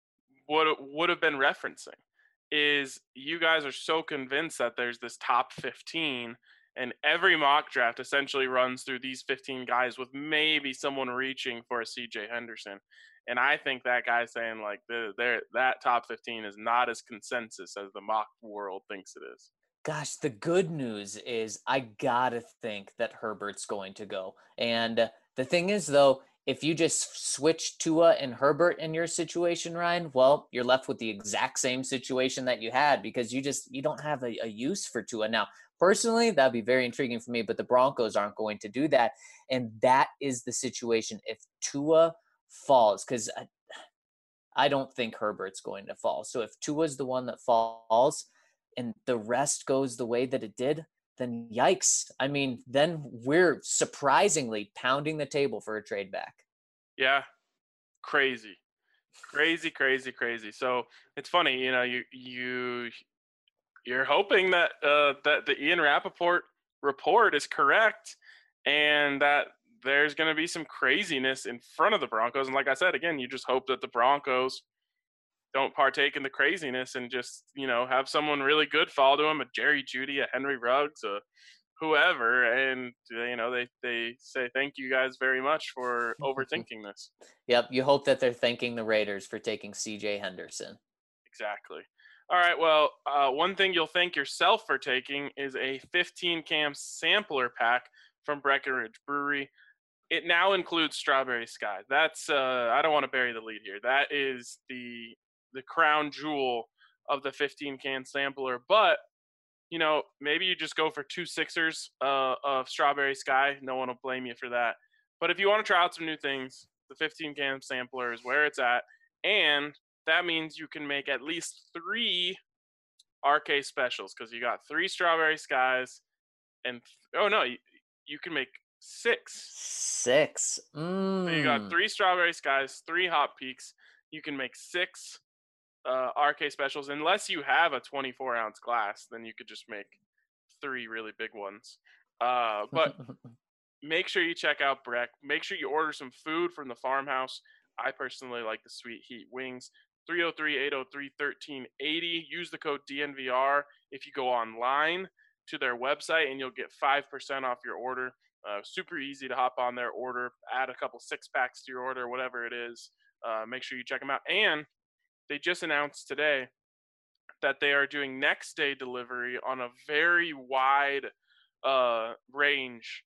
[SPEAKER 1] would have been referencing is you guys are so convinced that there's this top 15 and every mock draft essentially runs through these 15 guys with maybe someone reaching for a CJ Henderson. And I think that guy's saying like that top 15 is not as consensus as the mock world thinks it is.
[SPEAKER 3] Gosh, the good news is I gotta think that Herbert's going to go. And the thing is, though, if you just switch Tua and Herbert in your situation, Ryan, well, you're left with the exact same situation that you had because you don't have a use for Tua. Now, personally, that'd be very intriguing for me, but the Broncos aren't going to do that. And that is the situation. If Tua falls, because I don't think Herbert's going to fall. So if Tua's the one that falls and the rest goes the way that it did, then yikes. I mean, then we're surprisingly pounding the table for a trade back.
[SPEAKER 1] Yeah. Crazy. So it's funny, you're hoping that that the Ian Rappaport report is correct and that there's going to be some craziness in front of the Broncos. And like I said, again, you just hope that the Broncos don't partake in the craziness and just, have someone really good fall to him, a Jerry Jeudy, a Henry Ruggs, a whoever. And, they say, thank you guys very much for overthinking this.
[SPEAKER 3] Yep. You hope that they're thanking the Raiders for taking CJ Henderson.
[SPEAKER 1] Exactly. All right. Well, one thing you'll thank yourself for taking is a 15-cam sampler pack from Breckenridge Brewery. It now includes Strawberry Sky. That's I don't want to bury the lead here. That is the crown jewel of the 15-can sampler. But, maybe you just go for 2 sixers of Strawberry Sky. No one will blame you for that. But if you want to try out some new things, the 15-can sampler is where it's at. And that means you can make at least 3 RK specials because you got 3 Strawberry Skies and you can make 6.
[SPEAKER 3] 6.
[SPEAKER 1] So you got 3 Strawberry Skies, 3 Hot Peaks. You can make 6 RK specials. Unless you have a 24-ounce glass, then you could just make 3 really big ones. But make sure you check out Breck. Make sure you order some food from the farmhouse. I personally like the Sweet Heat wings. 303-803-1380. Use the code DNVR if you go online to their website, and you'll get 5% off your order. Super easy to hop on their order, add a couple 6-packs to your order, whatever it is. Make sure you check them out. And they just announced today that they are doing next day delivery on a very wide range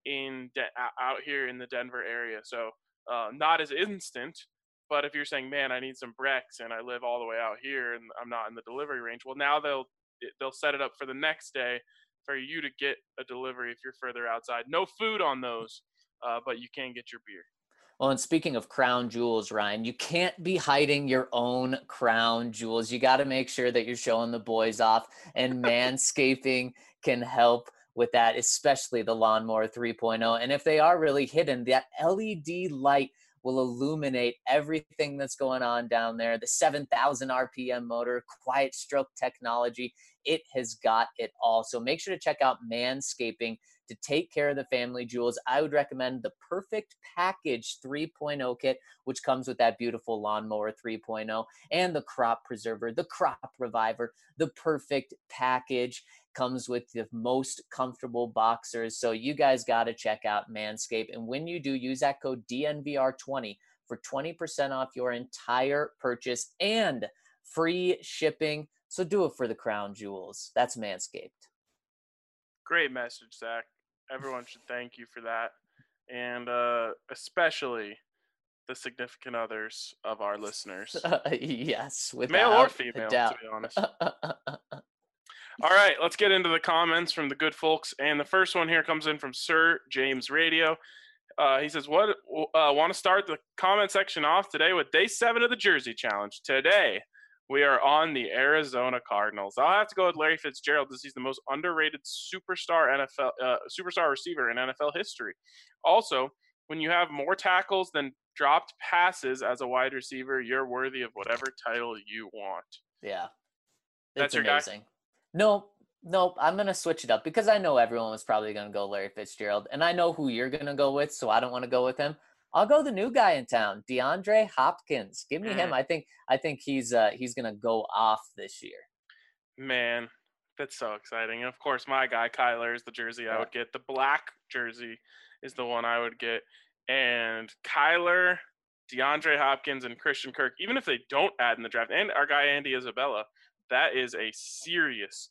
[SPEAKER 1] out here in the Denver area. So not as instant, but if you're saying, man, I need some Brex and I live all the way out here and I'm not in the delivery range, well, now they'll set it up for the next day for you to get a delivery if you're further outside. No food on those, but you can get your beer.
[SPEAKER 3] Well, and speaking of crown jewels, Ryan, you can't be hiding your own crown jewels. You got to make sure that you're showing the boys off, and Manscaping can help with that, especially the Lawnmower 3.0. And if they are really hidden, that LED light will illuminate everything that's going on down there. The 7,000 RPM motor, quiet stroke technology, it has got it all. So make sure to check out Manscaping to take care of the family jewels. I would recommend the Perfect Package 3.0 kit, which comes with that beautiful Lawnmower 3.0, and the Crop Preserver, the Crop Reviver. The Perfect Package comes with the most comfortable boxers. So you guys got to check out Manscaped. And when you do, use that code DNVR20 for 20% off your entire purchase and free shipping. So do it for the crown jewels. That's Manscaped.
[SPEAKER 1] Great message, Zach. Everyone should thank you for that. And especially the significant others of our listeners.
[SPEAKER 3] Yes, without
[SPEAKER 1] male or female,
[SPEAKER 3] a doubt.
[SPEAKER 1] to be honest. All right, let's get into the comments from the good folks. And the first one here comes in from Sir James Radio. He says, want to start the comment section off today with day 7 of the Jersey Challenge. Today, we are on the Arizona Cardinals. I'll have to go with Larry Fitzgerald because he's the most underrated superstar receiver in NFL history. Also, when you have more tackles than dropped passes as a wide receiver, you're worthy of whatever title you want.
[SPEAKER 3] Yeah.
[SPEAKER 1] That's your
[SPEAKER 3] amazing.
[SPEAKER 1] guy?
[SPEAKER 3] Nope. I'm going to switch it up because I know everyone was probably going to go Larry Fitzgerald, and I know who you're going to go with, so I don't want to go with him. I'll go the new guy in town, DeAndre Hopkins. Give me him. I think he's going to go off this year.
[SPEAKER 1] Man, that's so exciting. And of course, my guy Kyler is the jersey I would get. The black jersey is the one I would get. And Kyler, DeAndre Hopkins, and Christian Kirk, even if they don't add in the draft, and our guy Andy Isabella, that is a serious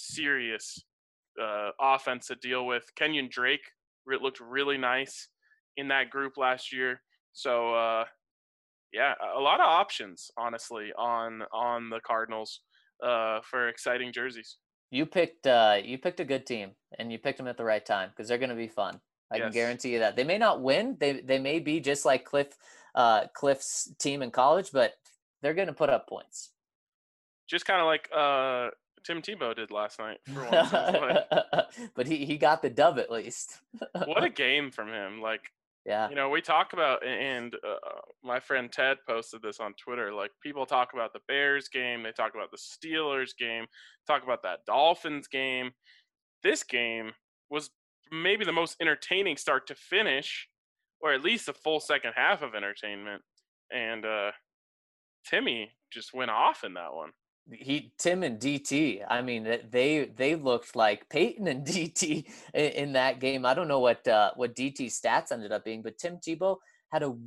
[SPEAKER 1] offense to deal with. Kenyon Drake looked really nice in that group last year. So, a lot of options, honestly, on the Cardinals for exciting jerseys.
[SPEAKER 3] You picked a good team, and you picked them at the right time because they're going to be fun. I can guarantee you that. They may not win. They may be just like Cliff's team in college, but they're going to put up points. Just
[SPEAKER 1] kind of like Tim Tebow did last night for once.
[SPEAKER 3] But he got the dub at least.
[SPEAKER 1] What a game from him. Like,
[SPEAKER 3] yeah.
[SPEAKER 1] You know, we talk about, and my friend Ted posted this on Twitter, like people talk about the Bears game, they talk about the Steelers game, talk about that Dolphins game. This game was maybe the most entertaining start to finish, or at least a full second half of entertainment. And Timmy just went off in that one.
[SPEAKER 3] Tim and DT, I mean, they looked like Peyton and DT in that game. I don't know what DT's stats ended up being, but Tim Tebow had a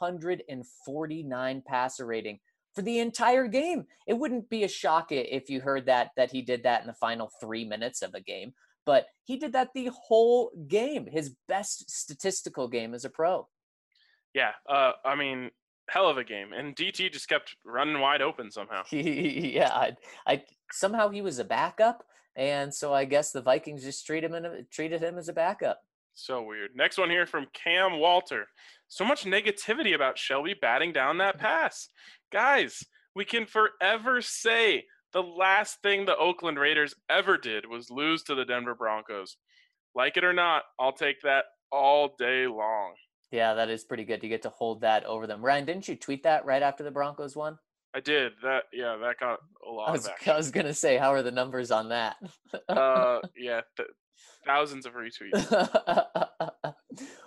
[SPEAKER 3] 149 passer rating for the entire game. It wouldn't be a shock if you heard that he did that in the final 3 minutes of a game, but he did that the whole game, his best statistical game as a pro.
[SPEAKER 1] Yeah, I mean, hell of a game, and DT just kept running wide open somehow.
[SPEAKER 3] Yeah, I somehow he was a backup, and so I guess the Vikings just treated him as a backup.
[SPEAKER 1] So weird. Next one here from Cam Walter. So much negativity about Shelby batting down that pass. Guys, we can forever say the last thing the Oakland Raiders ever did was lose to the Denver Broncos. Like it or not, I'll take that all day long.
[SPEAKER 3] Yeah, that is pretty good. You get to hold that over them. Ryan, didn't you tweet that right after the Broncos won?
[SPEAKER 1] I did. That got a lot of action.
[SPEAKER 3] I was going to say, how are the numbers on that?
[SPEAKER 1] Thousands of retweets.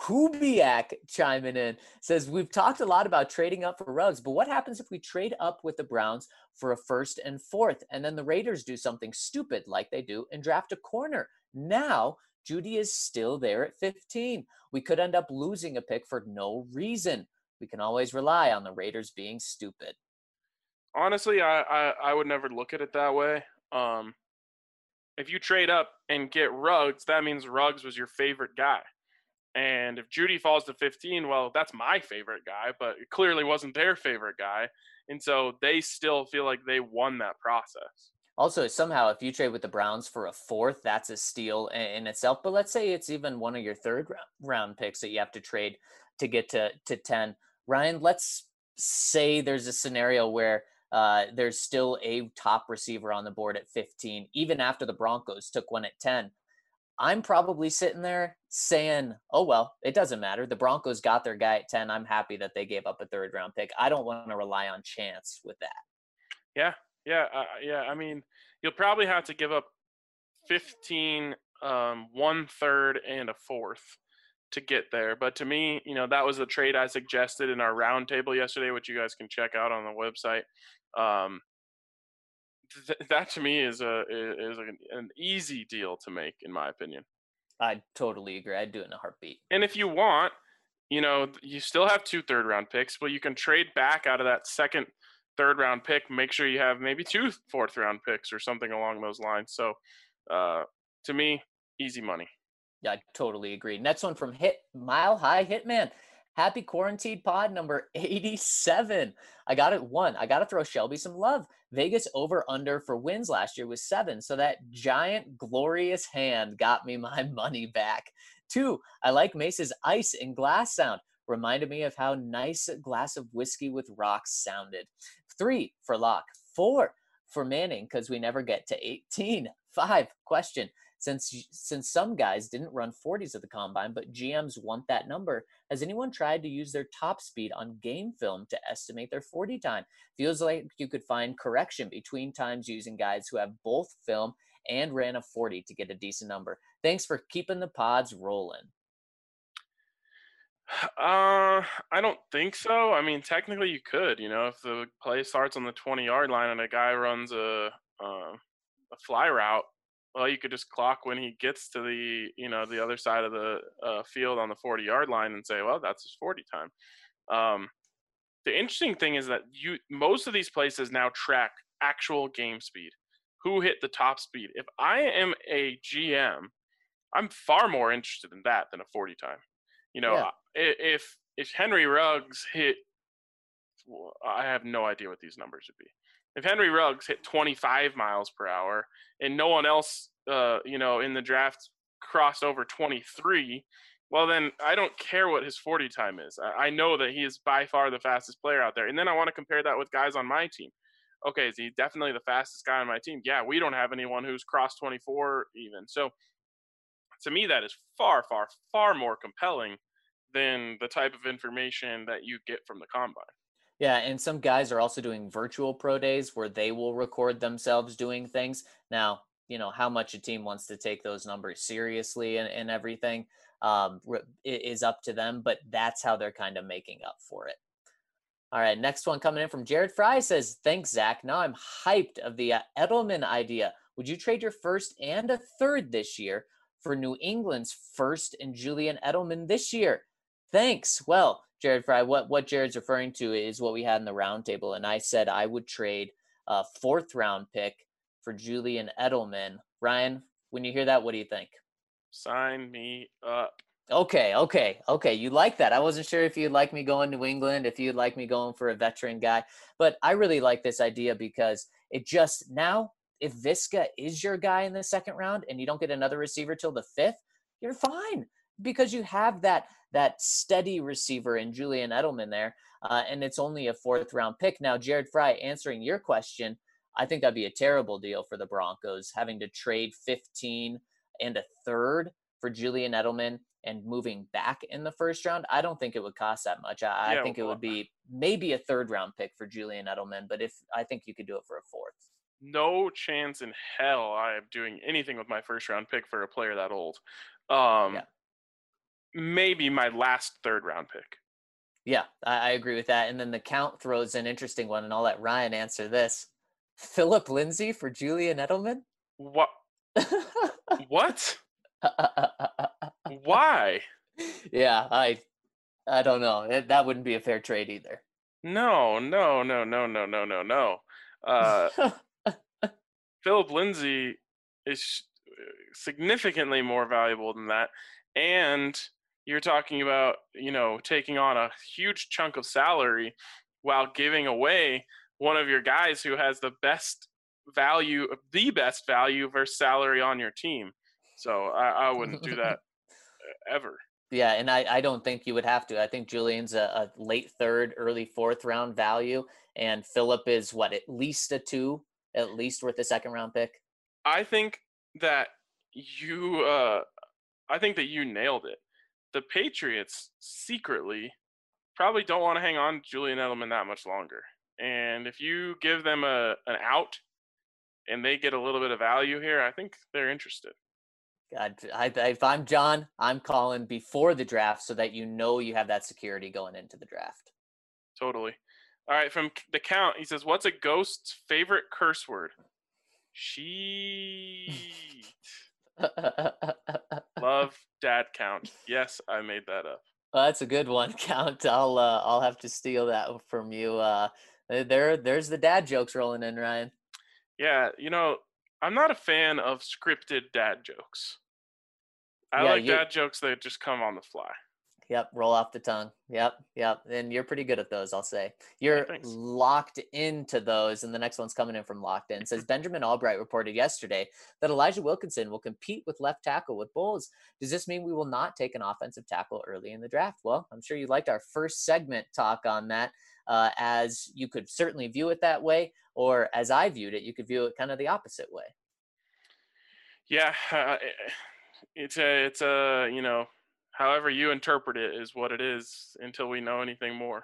[SPEAKER 3] Kubiak chiming in says, we've talked a lot about trading up for Ruggs, but what happens if we trade up with the Browns for a 1st and 4th, and then the Raiders do something stupid like they do and draft a corner? Now, Judy is still there at 15. We could end up losing a pick for no reason. We can always rely on the Raiders being stupid.
[SPEAKER 1] Honestly, I would never look at it that way. If you trade up and get Ruggs, that means Ruggs was your favorite guy. And if Judy falls to 15, well, that's my favorite guy, but it clearly wasn't their favorite guy. And so they still feel like they won that process.
[SPEAKER 3] Also, somehow, if you trade with the Browns for a 4th, that's a steal in itself. But let's say it's even one of your 3rd round picks that you have to trade to get to 10. Ryan, let's say there's a scenario where there's still a top receiver on the board at 15, even after the Broncos took one at 10. I'm probably sitting there saying, oh, well, it doesn't matter. The Broncos got their guy at 10. I'm happy that they gave up a 3rd round pick. I don't want to rely on chance with that.
[SPEAKER 1] Yeah. I mean, you'll probably have to give up 15, 1/3, and a 4th to get there. But to me, that was the trade I suggested in our roundtable yesterday, which you guys can check out on the website. That to me is an easy deal to make, in my opinion.
[SPEAKER 3] I totally agree. I'd do it in a heartbeat.
[SPEAKER 1] And if you want, you still have 2 3rd-round picks, but you can trade back out of that 2nd, 3rd-round pick. Make sure you have maybe 2 4th-round picks or something along those lines. So, to me, easy money.
[SPEAKER 3] Yeah, I totally agree. Next one from Mile High Hitman. Happy Quarantine Pod number 87. I got it 1. I got to throw Shelby some love. Vegas over-under for wins last year was 7, so that giant, glorious hand got me my money back. 2, I like Mace's ice and glass sound. Reminded me of how nice a glass of whiskey with rocks sounded. 3, for Locke. 4, for Manning, because we never get to 18. 5, question. Since some guys didn't run 40s at the combine, but GMs want that number, has anyone tried to use their top speed on game film to estimate their 40 time? Feels like you could find correction between times using guys who have both film and ran a 40 to get a decent number. Thanks for keeping the pods rolling.
[SPEAKER 1] I don't think so. I mean, technically you could, if the play starts on the 20-yard line and a guy runs a fly route, well, you could just clock when he gets to the other side of the field on the 40-yard line and say, well, that's his 40 time. The interesting thing is that most of these places now track actual game speed. Who hit the top speed? If I am a GM, I'm far more interested in that than a 40 time. If Henry Ruggs hit, well, I have no idea what these numbers would be. If Henry Ruggs hit 25 miles per hour and no one else, in the draft crossed over 23, well, then I don't care what his 40 time is. I know that he is by far the fastest player out there. And then I want to compare that with guys on my team. Okay, is he definitely the fastest guy on my team? Yeah, we don't have anyone who's crossed 24 even. So to me, that is far, far, far more compelling than the type of information that you get from the combine.
[SPEAKER 3] Yeah, and some guys are also doing virtual pro days where they will record themselves doing things. Now, how much a team wants to take those numbers seriously and everything is up to them, but that's how they're kind of making up for it. All right, next one coming in from Jared Fry says, thanks, Zach. Now I'm hyped of the Edelman idea. Would you trade your 1st and a 3rd this year for New England's 1st and Julian Edelman this year? Thanks. Well, Jared Fry, what Jared's referring to is what we had in the roundtable, and I said I would trade a 4th round pick for Julian Edelman. Ryan, when you hear that, what do you think?
[SPEAKER 1] Sign me up.
[SPEAKER 3] Okay. You like that. I wasn't sure if you'd like me going New England, if you'd like me going for a veteran guy, but I really like this idea because it just now, if Viska is your guy in the 2nd round and you don't get another receiver till the 5th, you're fine because you have that steady receiver in Julian Edelman there, and it's only a 4th round pick. Now, Jared Fry, answering your question, I think that'd be a terrible deal for the Broncos, having to trade 15 and a 3rd for Julian Edelman and moving back in the 1st round. I don't think it would cost that much. I think it would be maybe a 3rd round pick for Julian Edelman, but I think you could do it for a 4th.
[SPEAKER 1] No chance in hell I am doing anything with my 1st round pick for a player that old. maybe my last third-round pick.
[SPEAKER 3] Yeah, I agree with that. And then the count throws an interesting one, and I'll let Ryan answer this. Philip Lindsay for Julian Edelman?
[SPEAKER 1] What? What? Why?
[SPEAKER 3] Yeah, I don't know. That wouldn't be a fair trade either.
[SPEAKER 1] No. Philip Lindsay is significantly more valuable than that. And you're talking about, taking on a huge chunk of salary while giving away one of your guys who has the best value versus salary on your team. So I wouldn't do that ever.
[SPEAKER 3] Yeah, and I don't think you would have to. I think Julian's a late third, early fourth round value, and Philip is what, at least a 2, at least worth a second round pick.
[SPEAKER 1] I think that you nailed it. The Patriots secretly probably don't want to hang on to Julian Edelman that much longer. And if you give them an out and they get a little bit of value here, I think they're interested.
[SPEAKER 3] God, if I'm John, I'm calling before the draft so that you have that security going into the draft.
[SPEAKER 1] Totally. All right, from the count, he says, what's a ghost's favorite curse word? Sheet. Love dad count. Yes, I made that up.
[SPEAKER 3] Well, that's a good one, Count. I'll have to steal that from you. There's the dad jokes rolling in, Ryan.
[SPEAKER 1] Yeah, I'm not a fan of scripted dad jokes. I like dad jokes that just come on the fly.
[SPEAKER 3] Yep, roll off the tongue. Yep. And you're pretty good at those, I'll say. You're locked into those, and the next one's coming in from Locked In. It says, Benjamin Albright reported yesterday that Elijah Wilkinson will compete with left tackle with Bulls. Does this mean we will not take an offensive tackle early in the draft? Well, I'm sure you liked our first segment talk on that, as you could certainly view it that way, or as I viewed it, you could view it kind of the opposite way.
[SPEAKER 1] Yeah, it's a however you interpret it is what it is until we know anything more.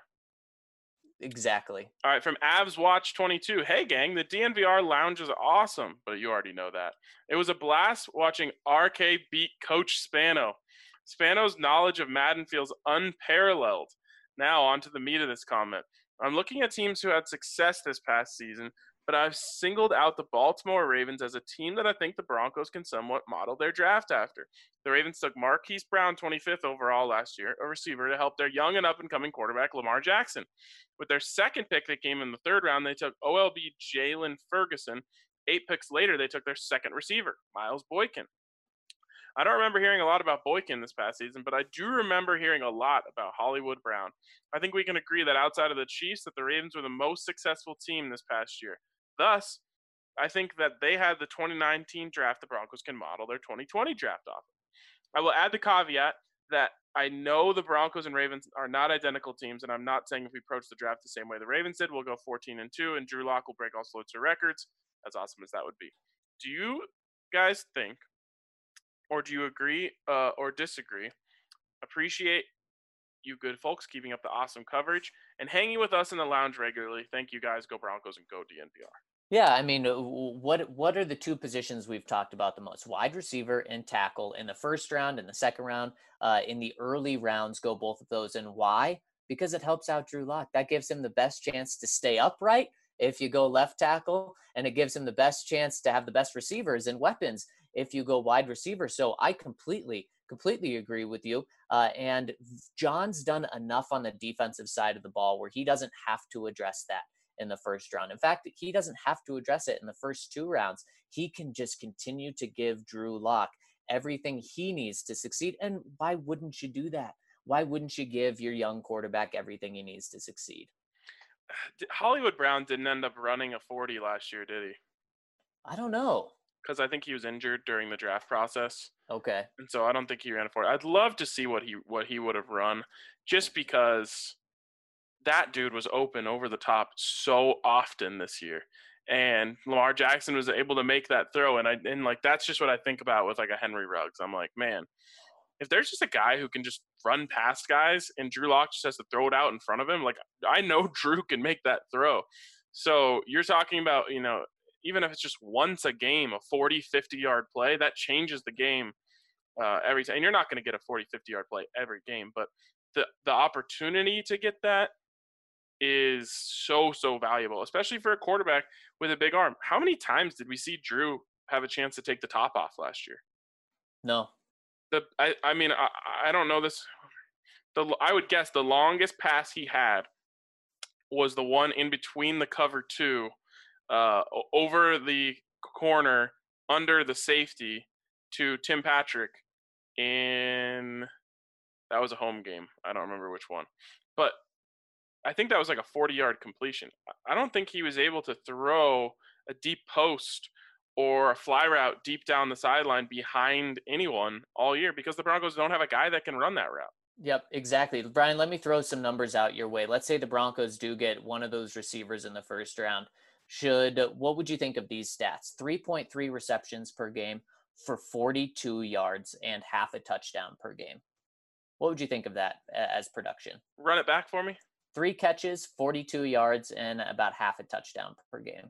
[SPEAKER 3] Exactly.
[SPEAKER 1] All right, from Avs Watch 22. Hey, gang, the DNVR lounge is awesome, but you already know that. It was a blast watching RK beat Coach Spano. Spano's knowledge of Madden feels unparalleled. Now, on to the meat of this comment. I'm looking at teams who had success this past season, but I've singled out the Baltimore Ravens as a team that I think the Broncos can somewhat model their draft after. The Ravens took Marquise Brown 25th overall last year, a receiver, to help their young and up-and-coming quarterback Lamar Jackson. With their second pick that came in the third round, they took OLB Jalen Ferguson. 8 picks later, they took their second receiver, Miles Boykin. I don't remember hearing a lot about Boykin this past season, but I do remember hearing a lot about Hollywood Brown. I think we can agree that outside of the Chiefs, that the Ravens were the most successful team this past year. Thus, I think that they had the 2019 draft the Broncos can model their 2020 draft off. I will add the caveat that I know the Broncos and Ravens are not identical teams, and I'm not saying if we approach the draft the same way the Ravens did, we'll go 14-2, and Drew Lock will break all sorts of records, as awesome as that would be. Do you guys think, or do you agree or disagree? Appreciate you good folks keeping up the awesome coverage and hanging with us in the lounge regularly. Thank you guys. Go Broncos and go DNVR.
[SPEAKER 3] Yeah, I mean, what are the two positions we've talked about the most? Wide receiver and tackle in the first round and the second round. In the early rounds, go both of those. And why? Because it helps out Drew Lock. That gives him the best chance to stay upright if you go left tackle, and it gives him the best chance to have the best receivers and weapons if you go wide receiver. So I completely agree with you. And John's done enough on the defensive side of the ball where he doesn't have to address that in the first round. In fact, he doesn't have to address it in the first 2 rounds. He can just continue to give Drew Lock everything he needs to succeed. And why wouldn't you do that? Why wouldn't you give your young quarterback everything he needs to succeed?
[SPEAKER 1] Hollywood Brown didn't end up running a 40 last year, did he?
[SPEAKER 3] I don't know.
[SPEAKER 1] Because I think he was injured during the draft process.
[SPEAKER 3] Okay.
[SPEAKER 1] And so I don't think he ran a 40. I'd love to see what he would have run, just because that dude was open over the top so often this year. And Lamar Jackson was able to make that throw. And that's just what I think about with like a Henry Ruggs. I'm like, man, if there's just a guy who can just run past guys and Drew Lock just has to throw it out in front of him, like I know Drew can make that throw. So you're talking about, even if it's just once a game, a 40, 50-yard play, that changes the game every time. And you're not going to get a 40, 50-yard play every game, but the opportunity to get that is so valuable, especially for a quarterback with a big arm. How many times did we see Drew have a chance to take the top off last year?
[SPEAKER 3] No.
[SPEAKER 1] I mean, I don't know this. I would guess the longest pass he had was the one in between the cover two, over the corner under the safety to Tim Patrick that was a home game. I don't remember which one, but I think that was like a 40-yard completion. I don't think he was able to throw a deep post or a fly route deep down the sideline behind anyone all year because the Broncos don't have a guy that can run that route.
[SPEAKER 3] Yep, exactly. Brian, let me throw some numbers out your way. Let's say the Broncos do get one of those receivers in the first round. What would you think of these stats? 3.3 receptions per game for 42 yards and half a touchdown per game. What would you think of that as production?
[SPEAKER 1] Run it back for me.
[SPEAKER 3] 3 catches, 42 yards, and about half a touchdown per game.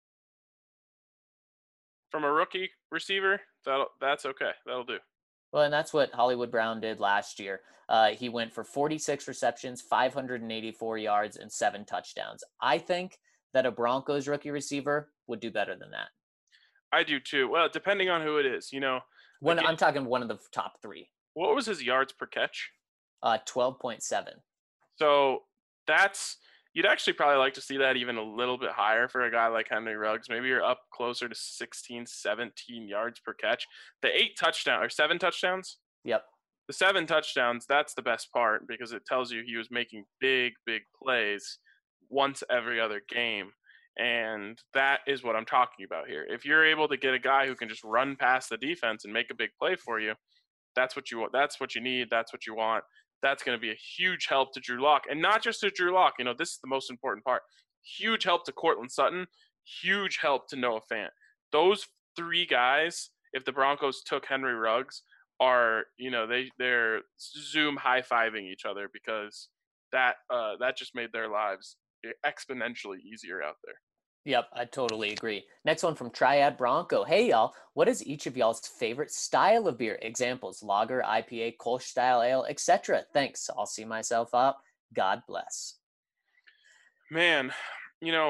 [SPEAKER 1] From a rookie receiver, that's okay. That'll do.
[SPEAKER 3] Well, and that's what Hollywood Brown did last year. He went for 46 receptions, 584 yards, and 7 touchdowns. I think that a Broncos rookie receiver would do better than that.
[SPEAKER 1] I do too. Well, depending on who it is,
[SPEAKER 3] I'm talking one of the top 3.
[SPEAKER 1] What was his yards per catch?
[SPEAKER 3] 12.7.
[SPEAKER 1] So you'd actually probably like to see that even a little bit higher for a guy like Henry Ruggs. Maybe you're up closer to 16, 17 yards per catch. The 7 touchdowns?
[SPEAKER 3] Yep.
[SPEAKER 1] The 7 touchdowns, that's the best part because it tells you he was making big plays once every other game. And that is what I'm talking about here. If you're able to get a guy who can just run past the defense and make a big play for you, that's what you want. That's what you need. That's what you want. That's going to be a huge help to Drew Lock. And not just to Drew Lock. This is the most important part. Huge help to Courtland Sutton. Huge help to Noah Fant. Those 3 guys, if the Broncos took Henry Ruggs, are, they're Zoom high-fiving each other because that just made their lives exponentially easier out there.
[SPEAKER 3] Yep, I totally agree. Next one from Triad Bronco. Hey, y'all. What is each of y'all's favorite style of beer? Examples: lager, IPA, Kolsch style ale, etc. Thanks. I'll see myself out. God bless.
[SPEAKER 1] Man, the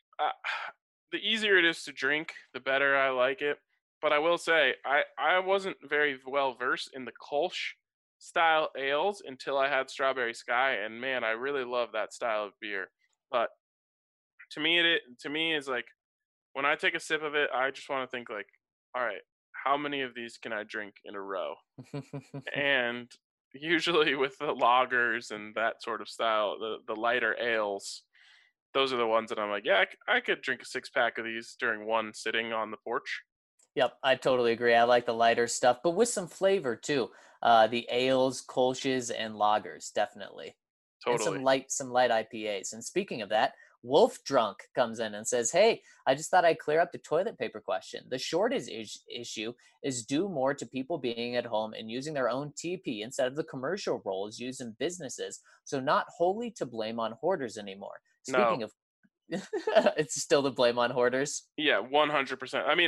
[SPEAKER 1] easier it is to drink, the better I like it. But I will say, I wasn't very well versed in the Kolsch style ales until I had Strawberry Sky, and man, I really love that style of beer. But to me, it's like when I take a sip of it, I just want to think like, all right, how many of these can I drink in a row? And usually with the lagers and that sort of style, the lighter ales, those are the ones that I'm like, yeah, I could drink a 6-pack of these during one sitting on the porch.
[SPEAKER 3] Yep, I totally agree. I like the lighter stuff, but with some flavor too. The ales, Kolsch's, and lagers, definitely.
[SPEAKER 1] Totally.
[SPEAKER 3] And some light IPAs. And speaking of that, Wolf Drunk comes in and says, hey, I just thought I'd clear up the toilet paper question. The shortage issue is due more to people being at home and using their own TP instead of the commercial rolls used in businesses. So not wholly to blame on hoarders anymore. Speaking of, it's still the blame on hoarders.
[SPEAKER 1] Yeah, 100%. I mean,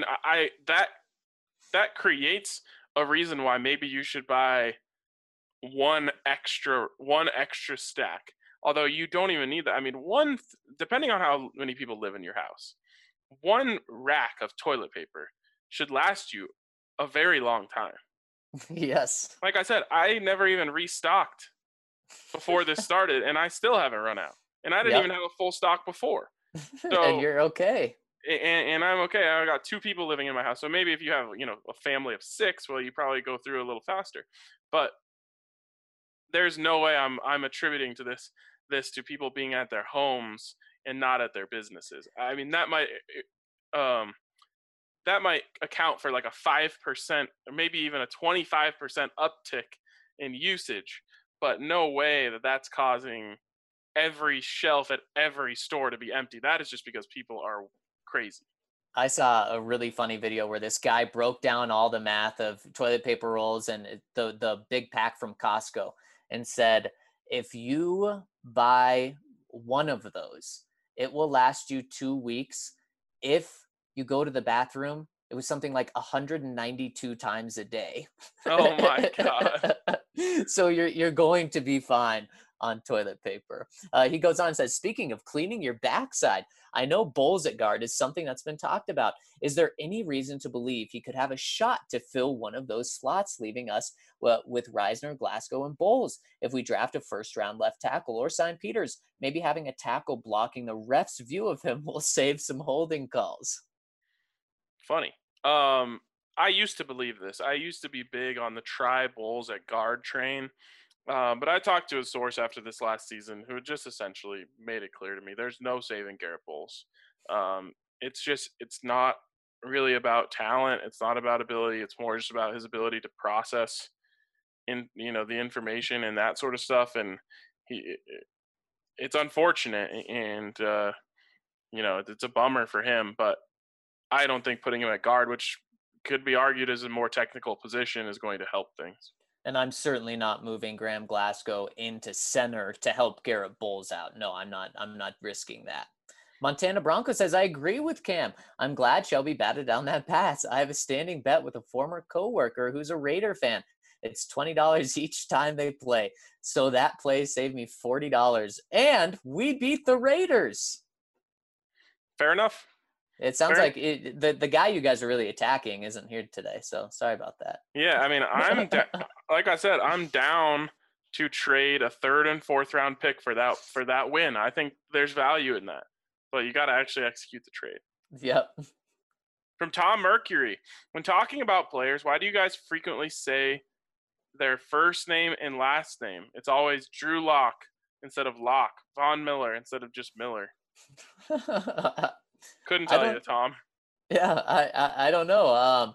[SPEAKER 1] that creates a reason why maybe you should buy one extra stack. Although you don't even need that. I mean, depending on how many people live in your house, one rack of toilet paper should last you a very long time.
[SPEAKER 3] Yes.
[SPEAKER 1] Like I said, I never even restocked before this started, and I still haven't run out. And I didn't even have a full stock before. So,
[SPEAKER 3] and you're okay.
[SPEAKER 1] And I'm okay. I got 2 people living in my house. So maybe if you have, a family of 6, well, you probably go through a little faster. But there's no way I'm attributing to this to people being at their homes and not at their businesses. I mean, that might account for like a 5% or maybe even a 25% uptick in usage, but no way that's causing every shelf at every store to be empty. That is just because people are crazy.
[SPEAKER 3] I saw a really funny video where this guy broke down all the math of toilet paper rolls and the big pack from Costco and said, if you buy one of those, it will last you 2 weeks. If you go to the bathroom It was something like 192 times a day.
[SPEAKER 1] Oh my God.
[SPEAKER 3] So you're going to be fine on toilet paper. He goes on and says, speaking of cleaning your backside, I know Bowles at guard is something that's been talked about. Is there any reason to believe he could have a shot to fill one of those slots, leaving us with Reisner, Glasgow, and Bowles? If we draft a first-round left tackle or sign Peters, maybe having a tackle blocking the ref's view of him will save some holding calls.
[SPEAKER 1] Funny. I used to believe this. I used to be big on the try Bowles at guard train. But I talked to a source after this last season who just essentially made it clear to me there's no saving Garrett Bowles. It's not really about talent. It's not about ability. It's more just about his ability to process the information and that sort of stuff. And it's unfortunate, and it's a bummer for him. But I don't think putting him at guard, which could be argued as a more technical position, is going to help things.
[SPEAKER 3] And I'm certainly not moving Graham Glasgow into center to help Garrett Bowles out. No, I'm not risking that. Montana Bronco says, I agree with Cam. I'm glad Shelby batted down that pass. I have a standing bet with a former coworker who's a Raider fan. It's $20 each time they play. So that play saved me $40. And we beat the Raiders.
[SPEAKER 1] Fair enough.
[SPEAKER 3] It sounds like the guy you guys are really attacking isn't here today, so sorry about that.
[SPEAKER 1] Yeah, I mean, like I said, I'm down to trade a 3rd and 4th round pick for that win. I think there's value in that, but you got to actually execute the trade.
[SPEAKER 3] Yep.
[SPEAKER 1] From Tom Mercury, when talking about players, why do you guys frequently say their first name and last name? It's always Drew Lock instead of Locke, Von Miller instead of just Miller. Couldn't tell you, Tom.
[SPEAKER 3] Yeah, I don't know.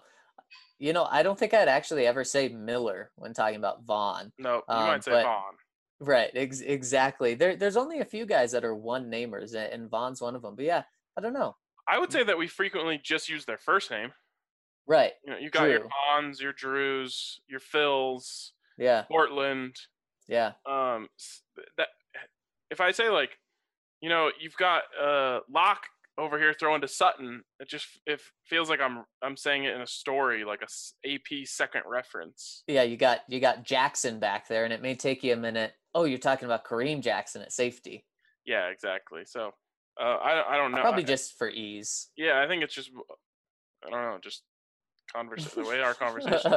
[SPEAKER 3] I don't think I'd actually ever say Miller when talking about Vaughn.
[SPEAKER 1] No, you might say Vaughn.
[SPEAKER 3] Right, exactly. There's only a few guys that are one-namers, and Vaughn's one of them. But yeah, I don't know.
[SPEAKER 1] I would say that we frequently just use their first name.
[SPEAKER 3] Right.
[SPEAKER 1] You got Drew. Your Vaughns, your Drews, your Phils.
[SPEAKER 3] Yeah.
[SPEAKER 1] Portland.
[SPEAKER 3] Yeah.
[SPEAKER 1] That if I say you've got Locke over here throwing to Sutton, it feels like I'm saying it in a story, like a AP second reference.
[SPEAKER 3] Yeah, you got Jackson back there, and it may take you a minute. Oh, you're talking about Kareem Jackson at safety.
[SPEAKER 1] Yeah, exactly. So I don't know.
[SPEAKER 3] Probably just for ease.
[SPEAKER 1] Yeah, I think it's just I don't know, just the way our conversations.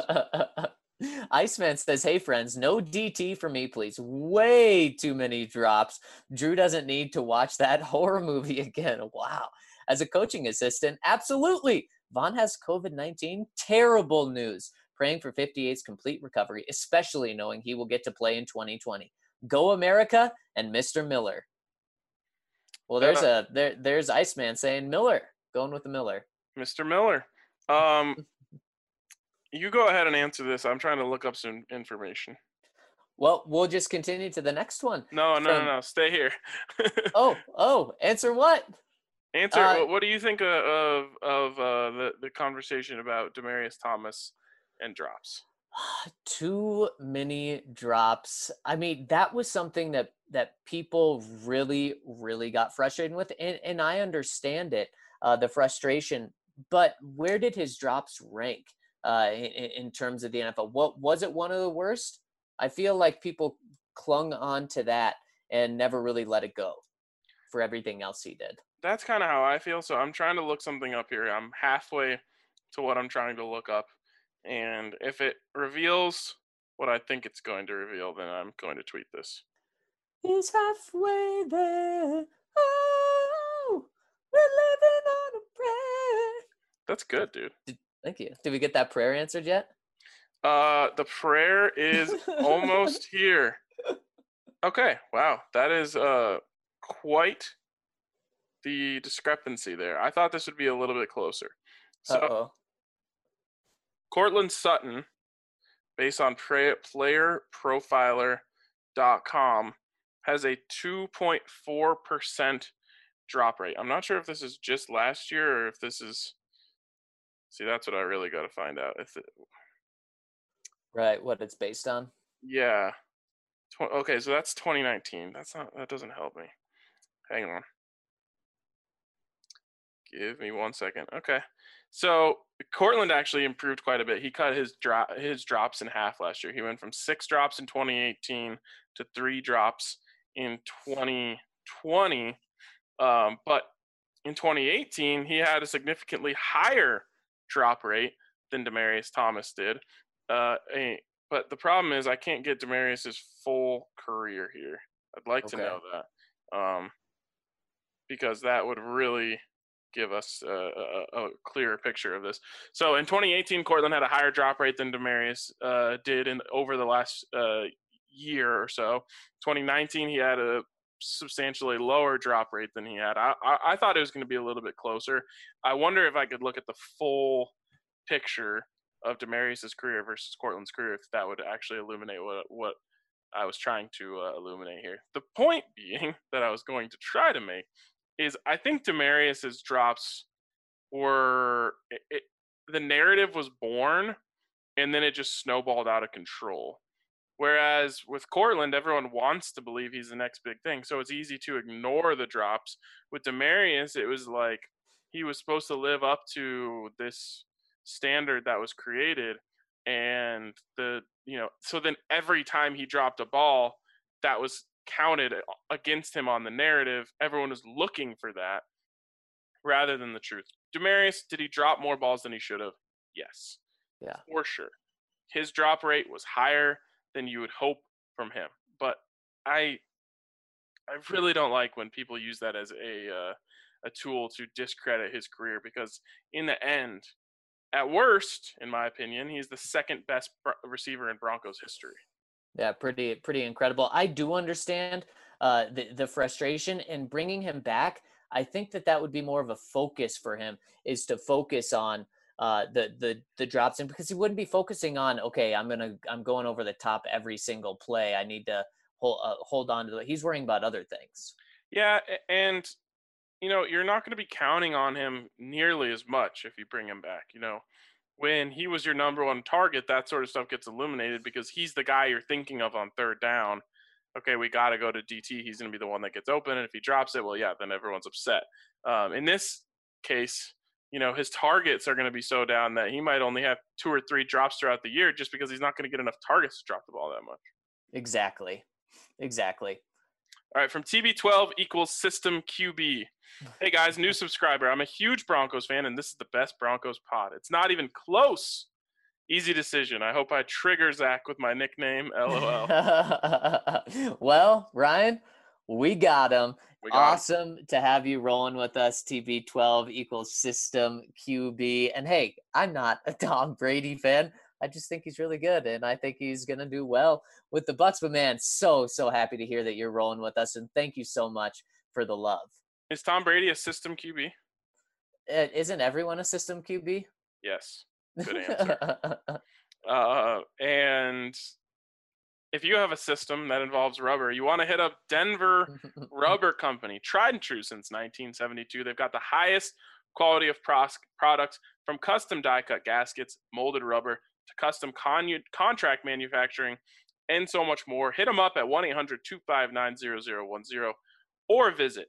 [SPEAKER 3] Iceman says, hey friends, no DT for me, please. Way too many drops. Drew doesn't need to watch that horror movie again. Wow. As a coaching assistant, absolutely. Vaughn has COVID-19. Terrible news. Praying for 58's complete recovery, especially knowing he will get to play in 2020. Go America and Mr. Miller. Well, there's Iceman saying Miller. Going with the Miller.
[SPEAKER 1] Mr. Miller. You go ahead and answer this. I'm trying to look up some information.
[SPEAKER 3] Well, we'll just continue to the next one.
[SPEAKER 1] No. Stay here.
[SPEAKER 3] Answer what?
[SPEAKER 1] Answer. What do you think of the conversation about Demaryius Thomas and drops?
[SPEAKER 3] Too many drops. I mean, that was something that people really, really got frustrated with, and I understand it, the frustration. But where did his drops rank? In terms of the NFL, what was it? One of the worst? I feel like people clung on to that and never really let it go for everything else he did.
[SPEAKER 1] That's kind of how I feel. So I'm trying to look something up here. I'm halfway to what I'm trying to look up. And if it reveals what I think it's going to reveal, then I'm going to tweet this.
[SPEAKER 3] He's halfway there. Oh, we're living on a prayer.
[SPEAKER 1] That's good, dude.
[SPEAKER 3] Thank you. Did we get that prayer answered yet?
[SPEAKER 1] The prayer is almost here. Okay. Wow. That is quite the discrepancy there. I thought this would be a little bit closer. So, Cortland Sutton, based on playerprofiler.com, has a 2.4% drop rate. I'm not sure if this is just last year or if this is. See, that's what I really got to find out.
[SPEAKER 3] Right, what it's based on?
[SPEAKER 1] Yeah. Okay, so that's 2019. That doesn't help me. Hang on. Give me 1 second. Okay. So Cortland actually improved quite a bit. He cut his drops in half last year. He went from 6 drops in 2018 to 3 drops in 2020. But in 2018, he had a significantly higher drop rate than Demaryius Thomas did. But the problem is I can't get Demaryius's full career here. I'd like to know that, because that would really give us a clearer picture of this. So in 2018, Cortland had a higher drop rate than Demaryius did over the last year or so. 2019, he had a substantially lower drop rate than he had. I thought it was going to be a little bit closer. I wonder if I could look at the full picture of Demaryius's career versus Cortland's career, if that would actually illuminate what I was trying to illuminate here. The point being that I was going to try to make is I think Demaryius's drops were the narrative was born and then it just snowballed out of control. Whereas with Cortland, everyone wants to believe he's the next big thing, so it's easy to ignore the drops. With Demaryius, it was like he was supposed to live up to this standard that was created, and so then every time he dropped a ball, that was counted against him on the narrative. Everyone was looking for that rather than the truth. Demaryius, did he drop more balls than he should have? Yes.
[SPEAKER 3] Yeah.
[SPEAKER 1] For sure. His drop rate was higher than you would hope from him. But I really don't like when people use that as a tool to discredit his career, because in the end, at worst, in my opinion, he's the second best receiver in Broncos history.
[SPEAKER 3] Yeah, pretty incredible. I do understand the frustration in bringing him back. I think that would be more of a focus for him, is to focus on the drops, and because he wouldn't be focusing on, okay, I'm going over the top every single play. I need to hold on to it. He's worrying about other things.
[SPEAKER 1] Yeah, and you're not going to be counting on him nearly as much if you bring him back. When he was your number one target, that sort of stuff gets illuminated because he's the guy you're thinking of on third down. Okay, we got to go to DT. He's going to be the one that gets open. And if he drops it, well, yeah, then everyone's upset. In this case, his targets are going to be so down that he might only have 2 or 3 drops throughout the year just because he's not going to get enough targets to drop the ball that much.
[SPEAKER 3] Exactly.
[SPEAKER 1] All right, from TB12 equals System QB. Hey, guys, new subscriber. I'm a huge Broncos fan, and this is the best Broncos pod. It's not even close. Easy decision. I hope I trigger Zach with my nickname, LOL.
[SPEAKER 3] Well, Ryan, we got him. Awesome to have you rolling with us. TB12 equals System QB. And hey, I'm not a Tom Brady fan. I just think he's really good, and I think he's going to do well with the Bucs. But man, so happy to hear that you're rolling with us, and thank you so much for the love.
[SPEAKER 1] Is Tom Brady a system QB?
[SPEAKER 3] Isn't everyone a system QB?
[SPEAKER 1] Yes. Good answer. And if you have a system that involves rubber, you want to hit up Denver Rubber Company. Tried and true since 1972. They've got the highest quality of products, from custom die-cut gaskets, molded rubber, to custom contract manufacturing, and so much more. Hit them up at 1-800-259-0010 or visit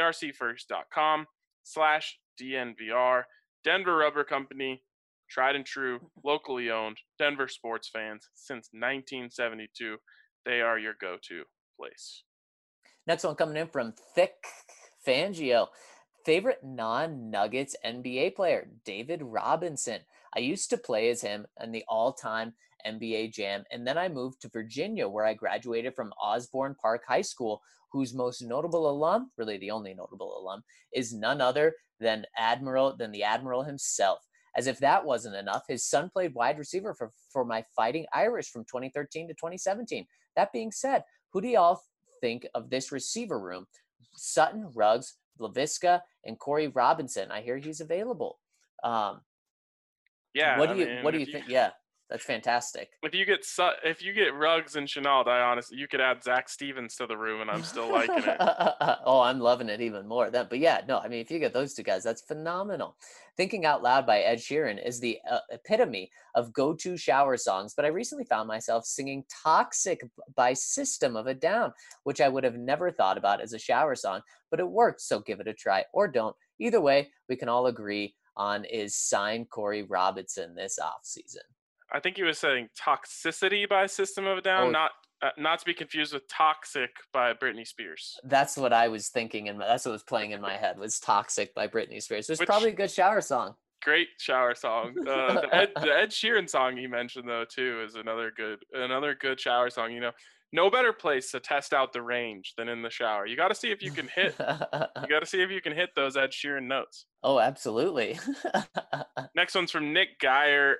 [SPEAKER 1] drcfirst.com/DNVR. Denver Rubber Company, tried and true, locally owned, Denver sports fans since 1972. They are your go-to place.
[SPEAKER 3] Next one coming in from Thick Fangio. Favorite non-Nuggets NBA player, David Robinson. I used to play as him in the all-time NBA Jam, and then I moved to Virginia, where I graduated from Osborne Park High School, whose most notable alum, really the only notable alum, is none other than the Admiral himself. As if that wasn't enough, his son played wide receiver for my Fighting Irish from 2013 to 2017. That being said, who do y'all think of this receiver room? Sutton, Ruggs, Laviska, and Corey Robinson. I hear he's available.
[SPEAKER 1] Yeah.
[SPEAKER 3] What do you think? Yeah, that's fantastic.
[SPEAKER 1] If you get Ruggs and Chenault, you could add Zach Stevens to the room, and I'm still liking it.
[SPEAKER 3] Oh, I'm loving it even more. But yeah, no, I mean, if you get those two guys, that's phenomenal. Thinking Out Loud by Ed Sheeran is the epitome of go-to shower songs, but I recently found myself singing Toxic by System of a Down, which I would have never thought about as a shower song, but it worked, so give it a try, or don't. Either way, we can all agree on is sign Corey Robinson this offseason.
[SPEAKER 1] I think he was saying Toxicity by System of a Down,
[SPEAKER 3] Oh,
[SPEAKER 1] not to be confused with Toxic by Britney Spears.
[SPEAKER 3] that's what I was thinking, and that's what was playing in my head was "Toxic" by Britney Spears. It's
[SPEAKER 1] Which
[SPEAKER 3] probably a good shower song.
[SPEAKER 1] great shower song. The Ed Sheeran song he mentioned though too is another good shower song. You know, no better place to test out the range than in the shower. You got to see if you can hit. You got to see if you can hit those Ed Sheeran notes.
[SPEAKER 3] Oh, absolutely.
[SPEAKER 1] Next one's from Nick Geyer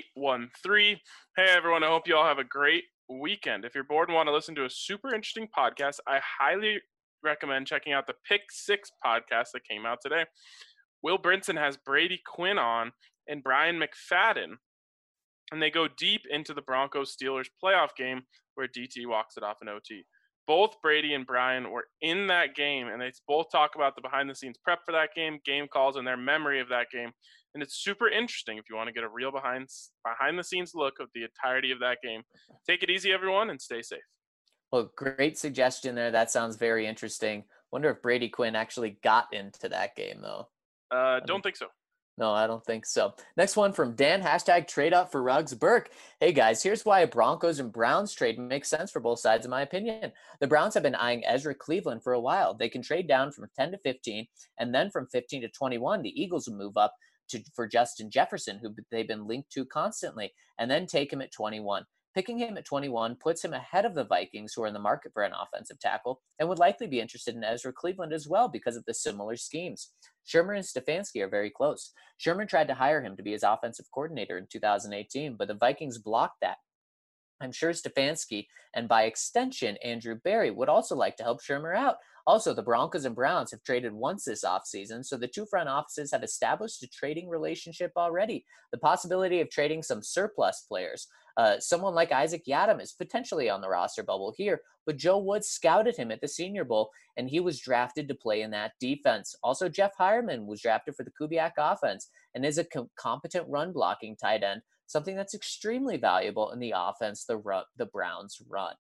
[SPEAKER 1] 813. Hey everyone, I hope you all have a great weekend. If you're bored and want to listen to a super interesting podcast, I highly recommend checking out the Pick Six podcast that came out today. Will Brinson has Brady Quinn on and Brian McFadden, and they go deep into the Broncos-Steelers playoff game where DT walks it off in OT. Both Brady and Brian were in that game, and they both talk about the behind-the-scenes prep for that game calls, and their memory of that game. And it's super interesting if you want to get a real behind-the-scenes look of the entirety of that game. Take it easy, everyone, and stay safe.
[SPEAKER 3] Well, great suggestion there. That sounds very interesting. Wonder if Brady Quinn actually got into that game, though.
[SPEAKER 1] Don't think so.
[SPEAKER 3] No, I don't think so. Next one from Dan, hashtag trade up for Ruggs Burke. Hey guys, here's why a Broncos and Browns trade makes sense for both sides in my opinion. The Browns have been eyeing Ezra Cleveland for a while. They can trade down from 10 to 15, and then from 15 to 21, the Eagles will move up for Justin Jefferson, who they've been linked to constantly, and then take him at 21. Picking him at 21 puts him ahead of the Vikings, who are in the market for an offensive tackle, and would likely be interested in Ezra Cleveland as well because of the similar schemes. Shermer and Stefanski are very close. Shermer tried to hire him to be his offensive coordinator in 2018, but the Vikings blocked that. I'm sure Stefanski, and by extension, Andrew Berry, would also like to help Shermer out. Also, the Broncos and Browns have traded once this offseason, so the two front offices have established a trading relationship already. The possibility of trading some surplus players. Someone like Isaac Yiadom is potentially on the roster bubble here, but Joe Woods scouted him at the Senior Bowl, and he was drafted to play in that defense. Also, Jeff Hireman was drafted for the Kubiak offense and is a competent run-blocking tight end, something that's extremely valuable in the offense the Browns run.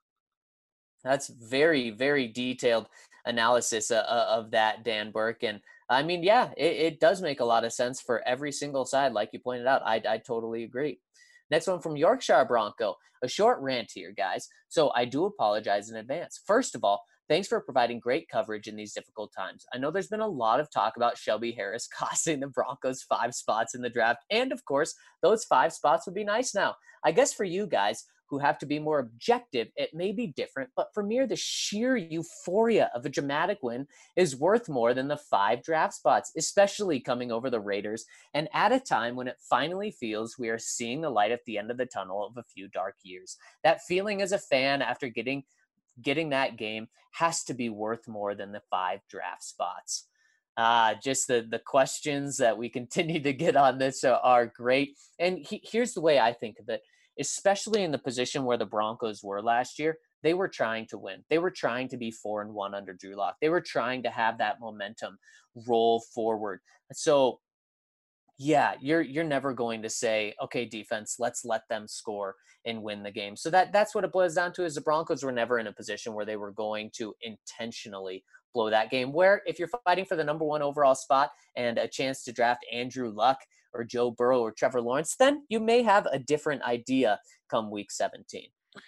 [SPEAKER 3] That's very, very detailed analysis of that, Dan Burke. And I mean, yeah, it does make a lot of sense for every single side. Like you pointed out, I totally agree. Next one from Yorkshire Bronco. A short rant here, guys. So I do apologize in advance. First of all, thanks for providing great coverage in these difficult times. I know there's been a lot of talk about Shelby Harris costing the Broncos 5 spots in the draft. And of course, those 5 spots would be nice now. I guess for you guys who have to be more objective, it may be different, but for me, the sheer euphoria of a dramatic win is worth more than the 5 draft spots, especially coming over the Raiders, and at a time when it finally feels we are seeing the light at the end of the tunnel of a few dark years. That feeling as a fan after getting that game has to be worth more than the 5 draft spots. Just the questions that we continue to get on this are great. And here's the way I think of it. Especially in the position where the Broncos were last year, they were trying to win. They were trying to be 4-1 under Drew Lock. They were trying to have that momentum roll forward. So, yeah, you're never going to say, okay, defense, let's let them score and win the game. So that's what it boils down to is the Broncos were never in a position where they were going to intentionally blow that game. Where if you're fighting for the number 1 overall spot and a chance to draft Andrew Luck or Joe Burrow or Trevor Lawrence, then you may have a different idea come week 17.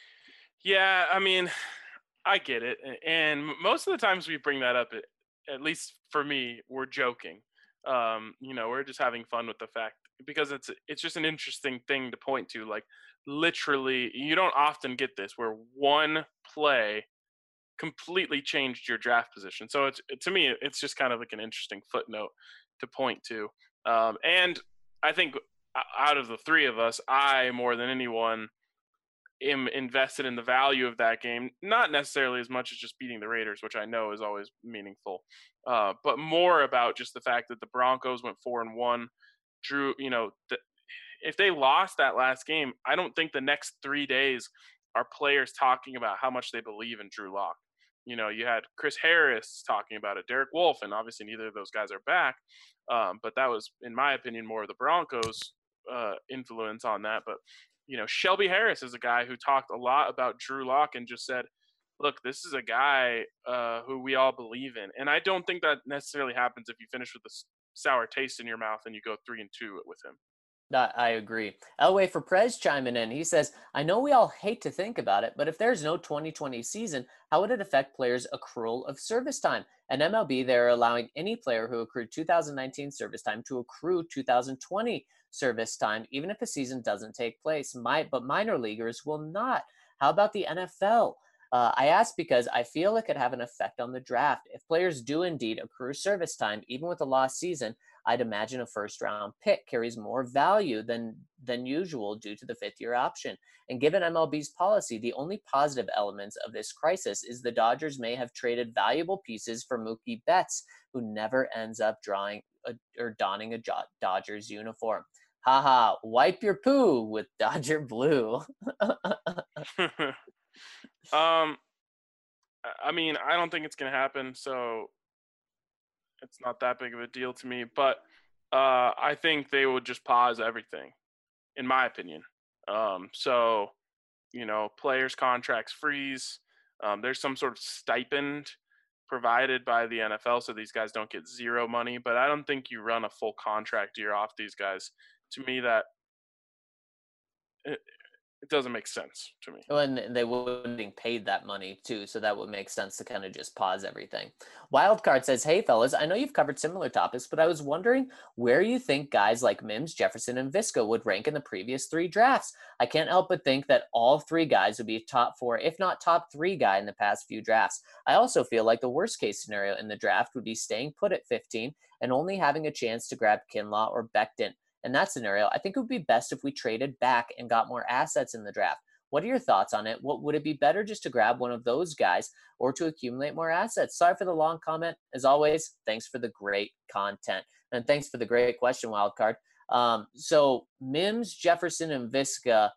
[SPEAKER 1] Yeah, I mean, I get it. And most of the times we bring that up, at least for me, we're joking. We're just having fun with the fact because it's just an interesting thing to point to. Like literally, you don't often get this where one play completely changed your draft position. So to me, it's just kind of like an interesting footnote to point to. And I think out of the 3 of us, I more than anyone am invested in the value of that game, not necessarily as much as just beating the Raiders, which I know is always meaningful, but more about just the fact that the Broncos went 4-1. Drew, if they lost that last game, I don't think the next 3 days are players talking about how much they believe in Drew Lock. You had Chris Harris talking about it, Derek Wolfe, and obviously neither of those guys are back. But that was, in my opinion, more of the Broncos' influence on that. But, Shelby Harris is a guy who talked a lot about Drew Lock and just said, look, this is a guy who we all believe in. And I don't think that necessarily happens if you finish with a sour taste in your mouth and you go 3-2 with him.
[SPEAKER 3] I agree. Elway for Prez chiming in. He says, I know we all hate to think about it, but if there's no 2020 season, how would it affect players' accrual of service time? At MLB, they're allowing any player who accrued 2019 service time to accrue 2020 service time, even if the season doesn't take place. But minor leaguers will not. How about the NFL? I ask because I feel it could have an effect on the draft. If players do indeed accrue service time, even with a lost season, I'd imagine a first round pick carries more value than usual due to the fifth year option. And given MLB's policy, the only positive elements of this crisis is the Dodgers may have traded valuable pieces for Mookie Betts, who never ends up donning a Dodgers uniform. Haha, wipe your poo with Dodger blue.
[SPEAKER 1] I mean, I don't think it's going to happen, so it's not that big of a deal to me. But I think they would just pause everything, in my opinion. So, players' contracts freeze. There's some sort of stipend provided by the NFL, so these guys don't get zero money. But I don't think you run a full contract year off these guys. To me, that it doesn't make sense to me.
[SPEAKER 3] And they wouldn't be paid that money too, so that would make sense to kind of just pause everything. Wildcard says, hey fellas, I know you've covered similar topics, but I was wondering where you think guys like Mims, Jefferson, and Visca would rank in the previous three drafts. I can't help but think that all three guys would be top four, if not top three guy in the past few drafts. I also feel like the worst case scenario in the draft would be staying put at 15 and only having a chance to grab Kinlaw or Becton. In that scenario, I think it would be best if we traded back and got more assets in the draft. What are your thoughts on it? What would it be better just to grab one of those guys or to accumulate more assets? Sorry for the long comment. As always, thanks for the great content. And thanks for the great question, Wildcard. So Mims, Jefferson, and Visca,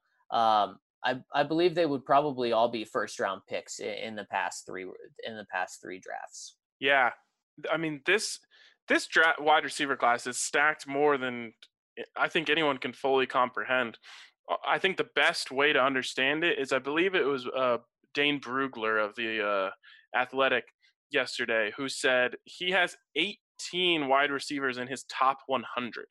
[SPEAKER 3] I believe they would probably all be first round picks in the past three drafts.
[SPEAKER 1] Yeah. I mean, this draft wide receiver class is stacked more than I think anyone can fully comprehend. I think the best way to understand it is I believe it was Dane Brugler of the Athletic yesterday who said he has 18 wide receivers in his top 100.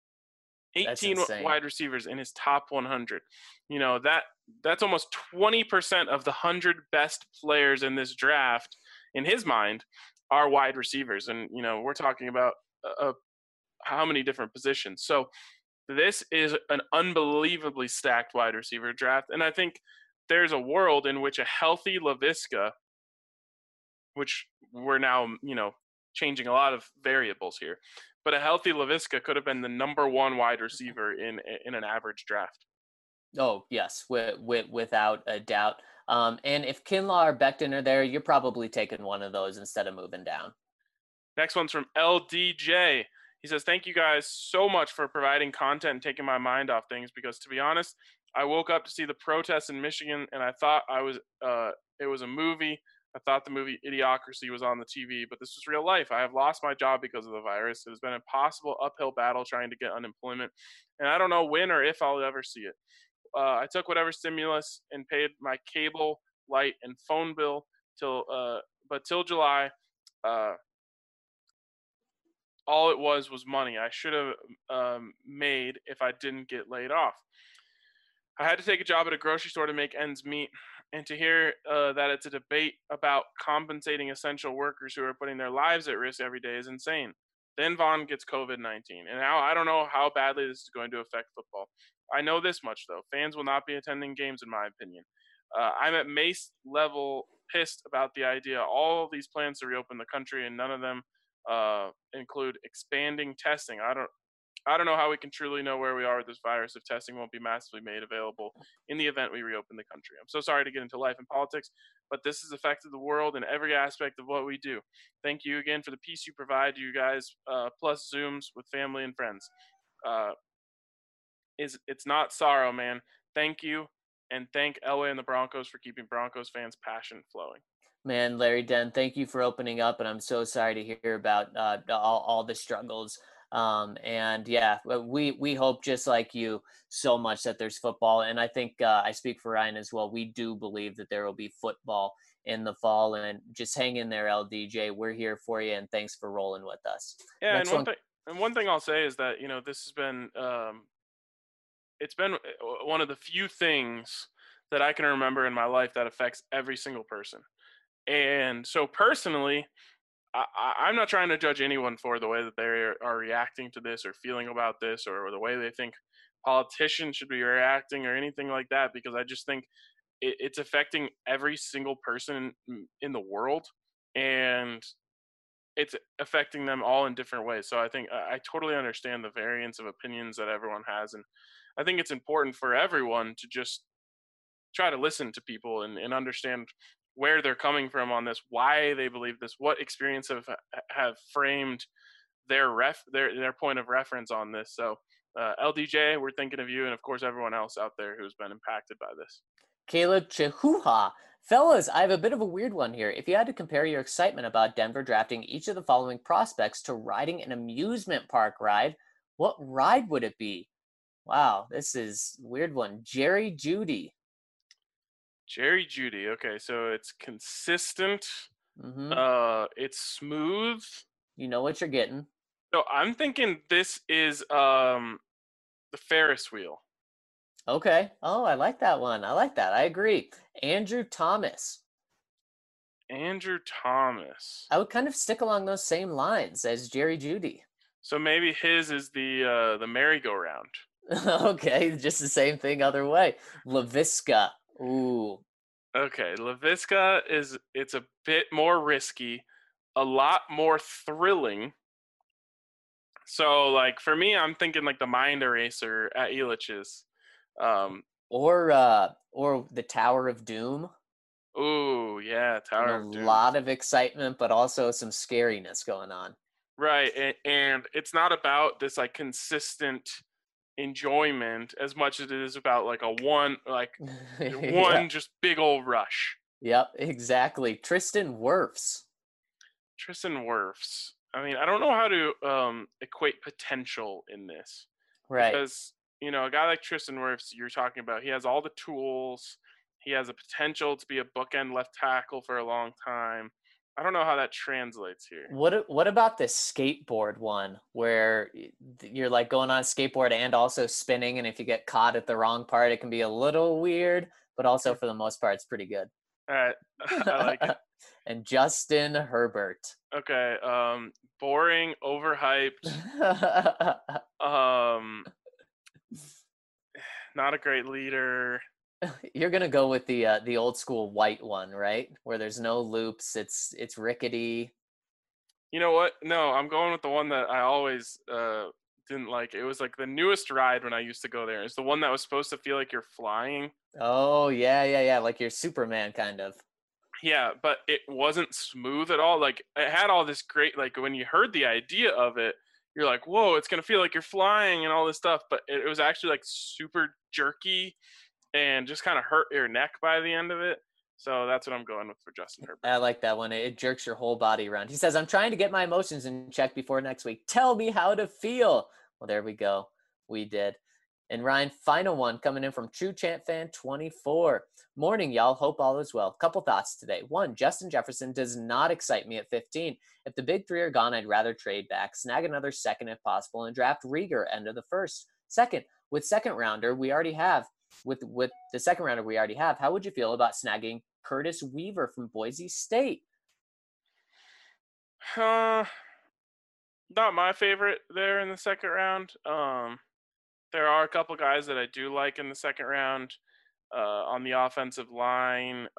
[SPEAKER 1] 18 wide receivers in his top 100. That's almost 20% of the 100 best players in this draft, in his mind, are wide receivers. And, we're talking about how many different positions. So this is an unbelievably stacked wide receiver draft. And I think there's a world in which a healthy Laviska, which we're now, changing a lot of variables here, but a healthy Laviska could have been the number one wide receiver in an average draft.
[SPEAKER 3] Oh, yes, without a doubt. And if Kinlaw or Becton are there, you're probably taking one of those instead of moving down.
[SPEAKER 1] Next one's from LDJ. He says, thank you guys so much for providing content and taking my mind off things, because to be honest, I woke up to see the protests in Michigan and I thought it was a movie. I thought the movie Idiocracy was on the TV, but this was real life. I have lost my job because of the virus. It has been an impossible uphill battle trying to get unemployment, and I don't know when or if I'll ever see it. I took whatever stimulus and paid my cable, light, and phone bill till July. All it was money I should have made if I didn't get laid off. I had to take a job at a grocery store to make ends meet, and to hear that it's a debate about compensating essential workers who are putting their lives at risk every day is insane. Then Vaughn gets COVID-19, and now I don't know how badly this is going to affect football. I know this much, though. Fans will not be attending games, in my opinion. I'm at Mace level pissed about the idea. All of these plans to reopen the country, and none of them include expanding testing. I don't know how we can truly know where we are with this virus if testing won't be massively made available in the event we reopen the country. I'm so sorry to get into life and politics, but this has affected the world in every aspect of what we do. Thank you again for the peace you provide to you guys, plus Zooms with family and friends. It's not sorrow, man. Thank you, and thank Elway and the Broncos for keeping Broncos fans' passion flowing.
[SPEAKER 3] Man, Larry Den, thank you for opening up, and I'm so sorry to hear about all the struggles And yeah, we hope just like you so much that there's football. And I think I speak for Ryan as well. We do believe that there will be football in the fall, and just hang in there, LDJ. We're here for you, and thanks for rolling with us.
[SPEAKER 1] Yeah,
[SPEAKER 3] Next one.
[SPEAKER 1] and one thing I'll say is that this has been it's been one of the few things that I can remember in my life that affects every single person. And so personally, I'm not trying to judge anyone for the way that they are reacting to this or feeling about this or the way they think politicians should be reacting or anything like that, because I just think it's affecting every single person in the world, and it's affecting them all in different ways. So I think I totally understand the variance of opinions that everyone has, and I think it's important for everyone to just try to listen to people and understand where they're coming from on this, why they believe this, what experience have framed their point of reference on this. So LDJ, we're thinking of you, and of course everyone else out there who's been impacted by this.
[SPEAKER 3] Caleb Chihuha. Fellas, I have a bit of a weird one here. If you had to compare your excitement about Denver drafting each of the following prospects to riding an amusement park ride, what ride would it be? Wow, this is a weird one. Jerry Jeudy.
[SPEAKER 1] Jerry Jeudy. Okay, so it's consistent. It's smooth.
[SPEAKER 3] You know what you're getting.
[SPEAKER 1] So I'm thinking this is the Ferris wheel.
[SPEAKER 3] Okay. Oh, I like that one. I like that. I agree. Andrew Thomas.
[SPEAKER 1] Andrew Thomas.
[SPEAKER 3] I would kind of stick along those same lines as Jerry Jeudy.
[SPEAKER 1] So maybe his is the merry-go-round.
[SPEAKER 3] Okay, just the same thing other way. Laviska. Ooh.
[SPEAKER 1] Okay, Laviska it's a bit more risky, a lot more thrilling. So like for me, I'm thinking like the Mind Eraser at Elitch's.
[SPEAKER 3] Or the Tower of Doom.
[SPEAKER 1] Ooh, yeah, Tower of Doom.
[SPEAKER 3] A lot of excitement, but also some scariness going on.
[SPEAKER 1] Right, and it's not about this like consistent enjoyment as much as it is about like one
[SPEAKER 3] Yeah.
[SPEAKER 1] just big old rush.
[SPEAKER 3] Yep, exactly. Tristan Wirfs.
[SPEAKER 1] I mean, I don't know how to equate potential in this.
[SPEAKER 3] Right.
[SPEAKER 1] Because, a guy like Tristan Wirfs, you're talking about, he has all the tools. He has a potential to be a bookend left tackle for a long time. I don't know how that translates here.
[SPEAKER 3] What about this skateboard one where you're like going on a skateboard and also spinning, and if you get caught at the wrong part, it can be a little weird, but also for the most part, it's pretty good.
[SPEAKER 1] All right, I like it.
[SPEAKER 3] And Justin Herbert.
[SPEAKER 1] Okay, boring, overhyped. Not a great leader.
[SPEAKER 3] You're gonna go with the old school white one, right? Where there's no loops. It's rickety.
[SPEAKER 1] You know what? No, I'm going with the one that I always didn't like. It was like the newest ride when I used to go there. It's the one that was supposed to feel like you're flying.
[SPEAKER 3] Oh yeah, like you're Superman kind of.
[SPEAKER 1] Yeah, but it wasn't smooth at all. Like it had all this great, like when you heard the idea of it, you're like, whoa, it's gonna feel like you're flying and all this stuff. But it was actually like super jerky and just kind of hurt your neck by the end of it. So that's what I'm going with for Justin Herbert.
[SPEAKER 3] I like that one. It jerks your whole body around. He says, I'm trying to get my emotions in check before next week. Tell me how to feel. Well, there we go. We did. And Ryan, final one coming in from True Chant Fan 24. Morning, y'all. Hope all is well. Couple thoughts today. One, Justin Jefferson does not excite me at 15. If the big three are gone, I'd rather trade back, snag another second if possible, and draft Rieger end of the first. Second, with the second rounder we already have, how would you feel about snagging Curtis Weaver from Boise State?
[SPEAKER 1] Not my favorite there in the second round. There are a couple guys that I do like in the second round on the offensive line.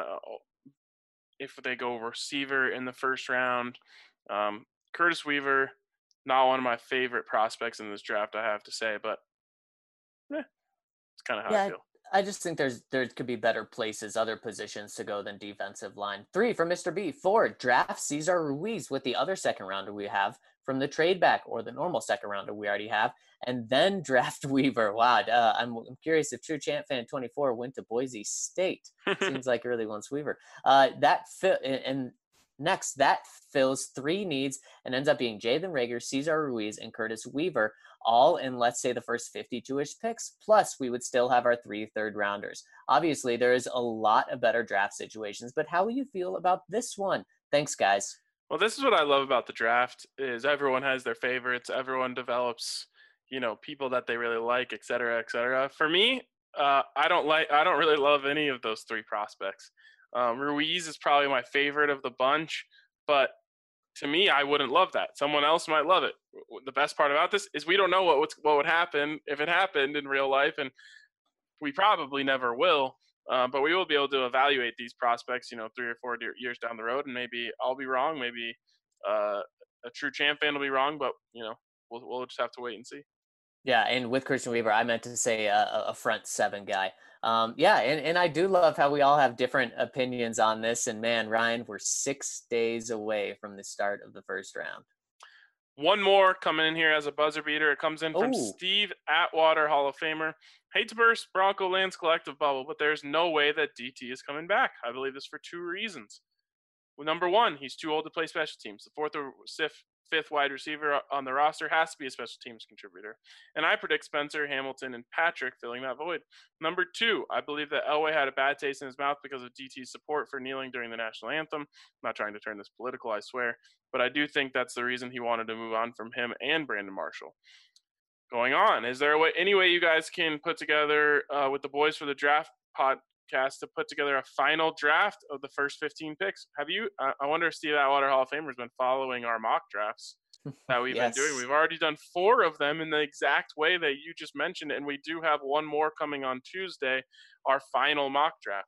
[SPEAKER 1] If they go receiver in the first round, Curtis Weaver, not one of my favorite prospects in this draft, I have to say, but it's kind of how I feel.
[SPEAKER 3] I just think there could be better places, other positions to go than defensive line. 3 from Mr. B. 4, draft Cesar Ruiz with the other second rounder we have from the trade back or the normal second rounder we already have, and then draft Weaver. Wow, I'm curious if True Chant Fan 24 went to Boise State. Seems like he really wants Weaver. That fit, and Next, that fills 3 needs and ends up being Jalen Reagor, Cesar Ruiz, and Curtis Weaver, all in, let's say, the first 52-ish picks. Plus, we would still have our 3 third-rounders. Obviously, there is a lot of better draft situations, but how will you feel about this one? Thanks, guys.
[SPEAKER 1] Well, this is what I love about the draft is everyone has their favorites. Everyone develops, people that they really like, et cetera, et cetera. For me, I don't really love any of those 3 prospects. Ruiz is probably my favorite of the bunch, but to me, I wouldn't love that. Someone else might love it. The best part about this is we don't know what would happen if it happened in real life, and we probably never will. But we will be able to evaluate these prospects, 3 or 4 years down the road, and maybe I'll be wrong. Maybe a true champ fan will be wrong, but we'll just have to wait and see.
[SPEAKER 3] Yeah, and with Christian Weaver, I meant to say a front 7 guy. And I do love how we all have different opinions on this. And man, Ryan, we're 6 days away from the start of the first round.
[SPEAKER 1] One more coming in here as a buzzer beater. It comes in from Steve Atwater, Hall of Famer. Hate to burst Bronco Lands collective bubble, but there's no way that DT is coming back. I believe this for 2 reasons. Well, number 1, he's too old to play special teams. The 4th or 5th wide receiver on the roster has to be a special teams contributor. And I predict Spencer, Hamilton, and Patrick filling that void. Number 2, I believe that Elway had a bad taste in his mouth because of DT's support for kneeling during the national anthem. I'm not trying to turn this political, I swear. But I do think that's the reason he wanted to move on from him and Brandon Marshall. Going on, is there any way you guys can put together with the Boys for the Draft podcast to put together a final draft of the first 15 picks? Have you? I wonder if Steve Atwater, Hall of Famer, has been following our mock drafts that we've been doing. We've already done 4 of them in the exact way that you just mentioned, and we do have one more coming on Tuesday, our final mock draft.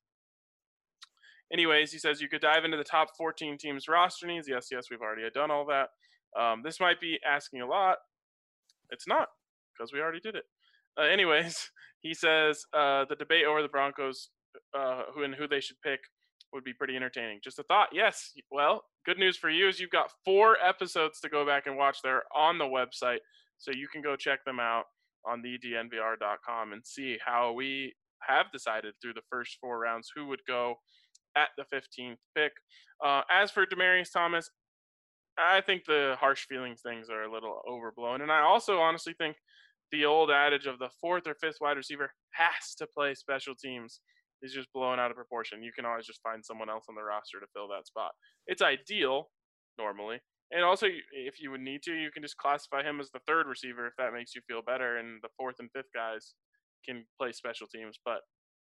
[SPEAKER 1] Anyways, he says you could dive into the top 14 teams' roster needs. Yes, we've already done all that. This might be asking a lot. It's not, because we already did it. Anyways, he says the debate over the Broncos, who they should pick, would be pretty entertaining. Just a thought. Yes. Well, good news for you is you've got 4 episodes to go back and watch. They're on the website, so you can go check them out on thednvr.com and see how we have decided through the first 4 rounds who would go at the 15th pick. As for Demaryius Thomas, I think the harsh feelings things are a little overblown. And I also honestly think the old adage of the 4th or 5th wide receiver has to play special teams is just blown out of proportion. You can always just find someone else on the roster to fill that spot. It's ideal, normally. And also, if you would need to, you can just classify him as the 3rd receiver if that makes you feel better, and the 4th and 5th guys can play special teams. But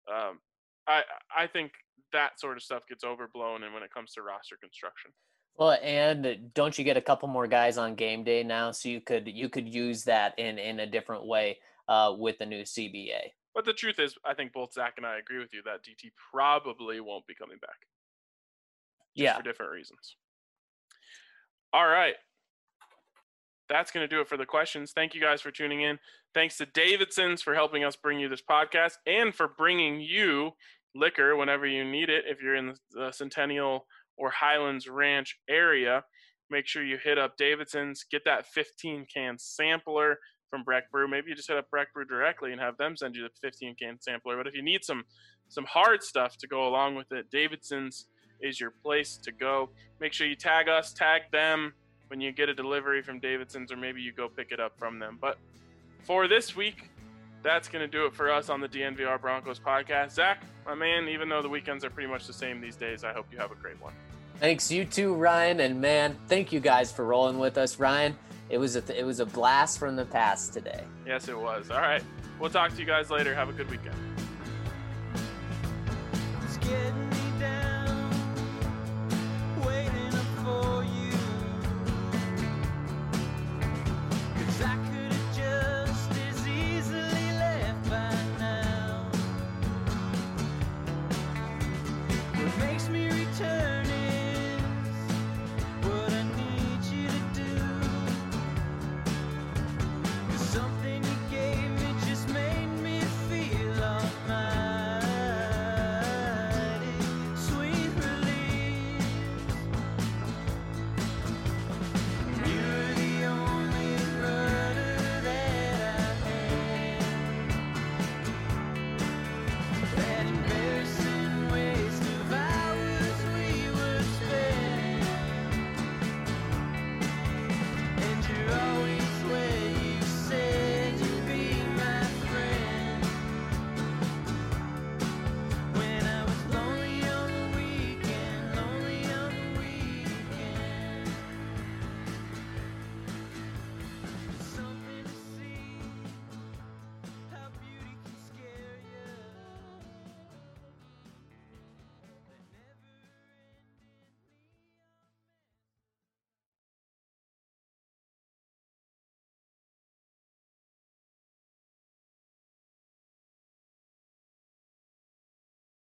[SPEAKER 1] I think that sort of stuff gets overblown and when it comes to roster construction.
[SPEAKER 3] Well, and don't you get a couple more guys on game day now, so you could use that in a different way with the new CBA.
[SPEAKER 1] But the truth is, I think both Zach and I agree with you that DT probably won't be coming back. Just for different reasons. All right. That's going to do it for the questions. Thank you guys for tuning in. Thanks to Davidson's for helping us bring you this podcast and for bringing you liquor whenever you need it. If you're in the Centennial or Highlands Ranch area, make sure you hit up Davidson's, get that 15-can sampler from Breck Brew. Maybe you just hit up Breck Brew directly and have them send you the 15-can sampler. But if you need some hard stuff to go along with it, Davidson's is your place to go. Make sure you tag us, tag them when you get a delivery from Davidson's, or maybe you go pick it up from them. But for this week, that's going to do it for us on the DNVR Broncos podcast. Zach, my man, even though the weekends are pretty much the same these days, I hope you have a great one.
[SPEAKER 3] Thanks, you too, Ryan. And man, thank you guys for rolling with us. Ryan, it was a blast from the past today.
[SPEAKER 1] Yes, it was. All right. We'll talk to you guys later. Have a good weekend.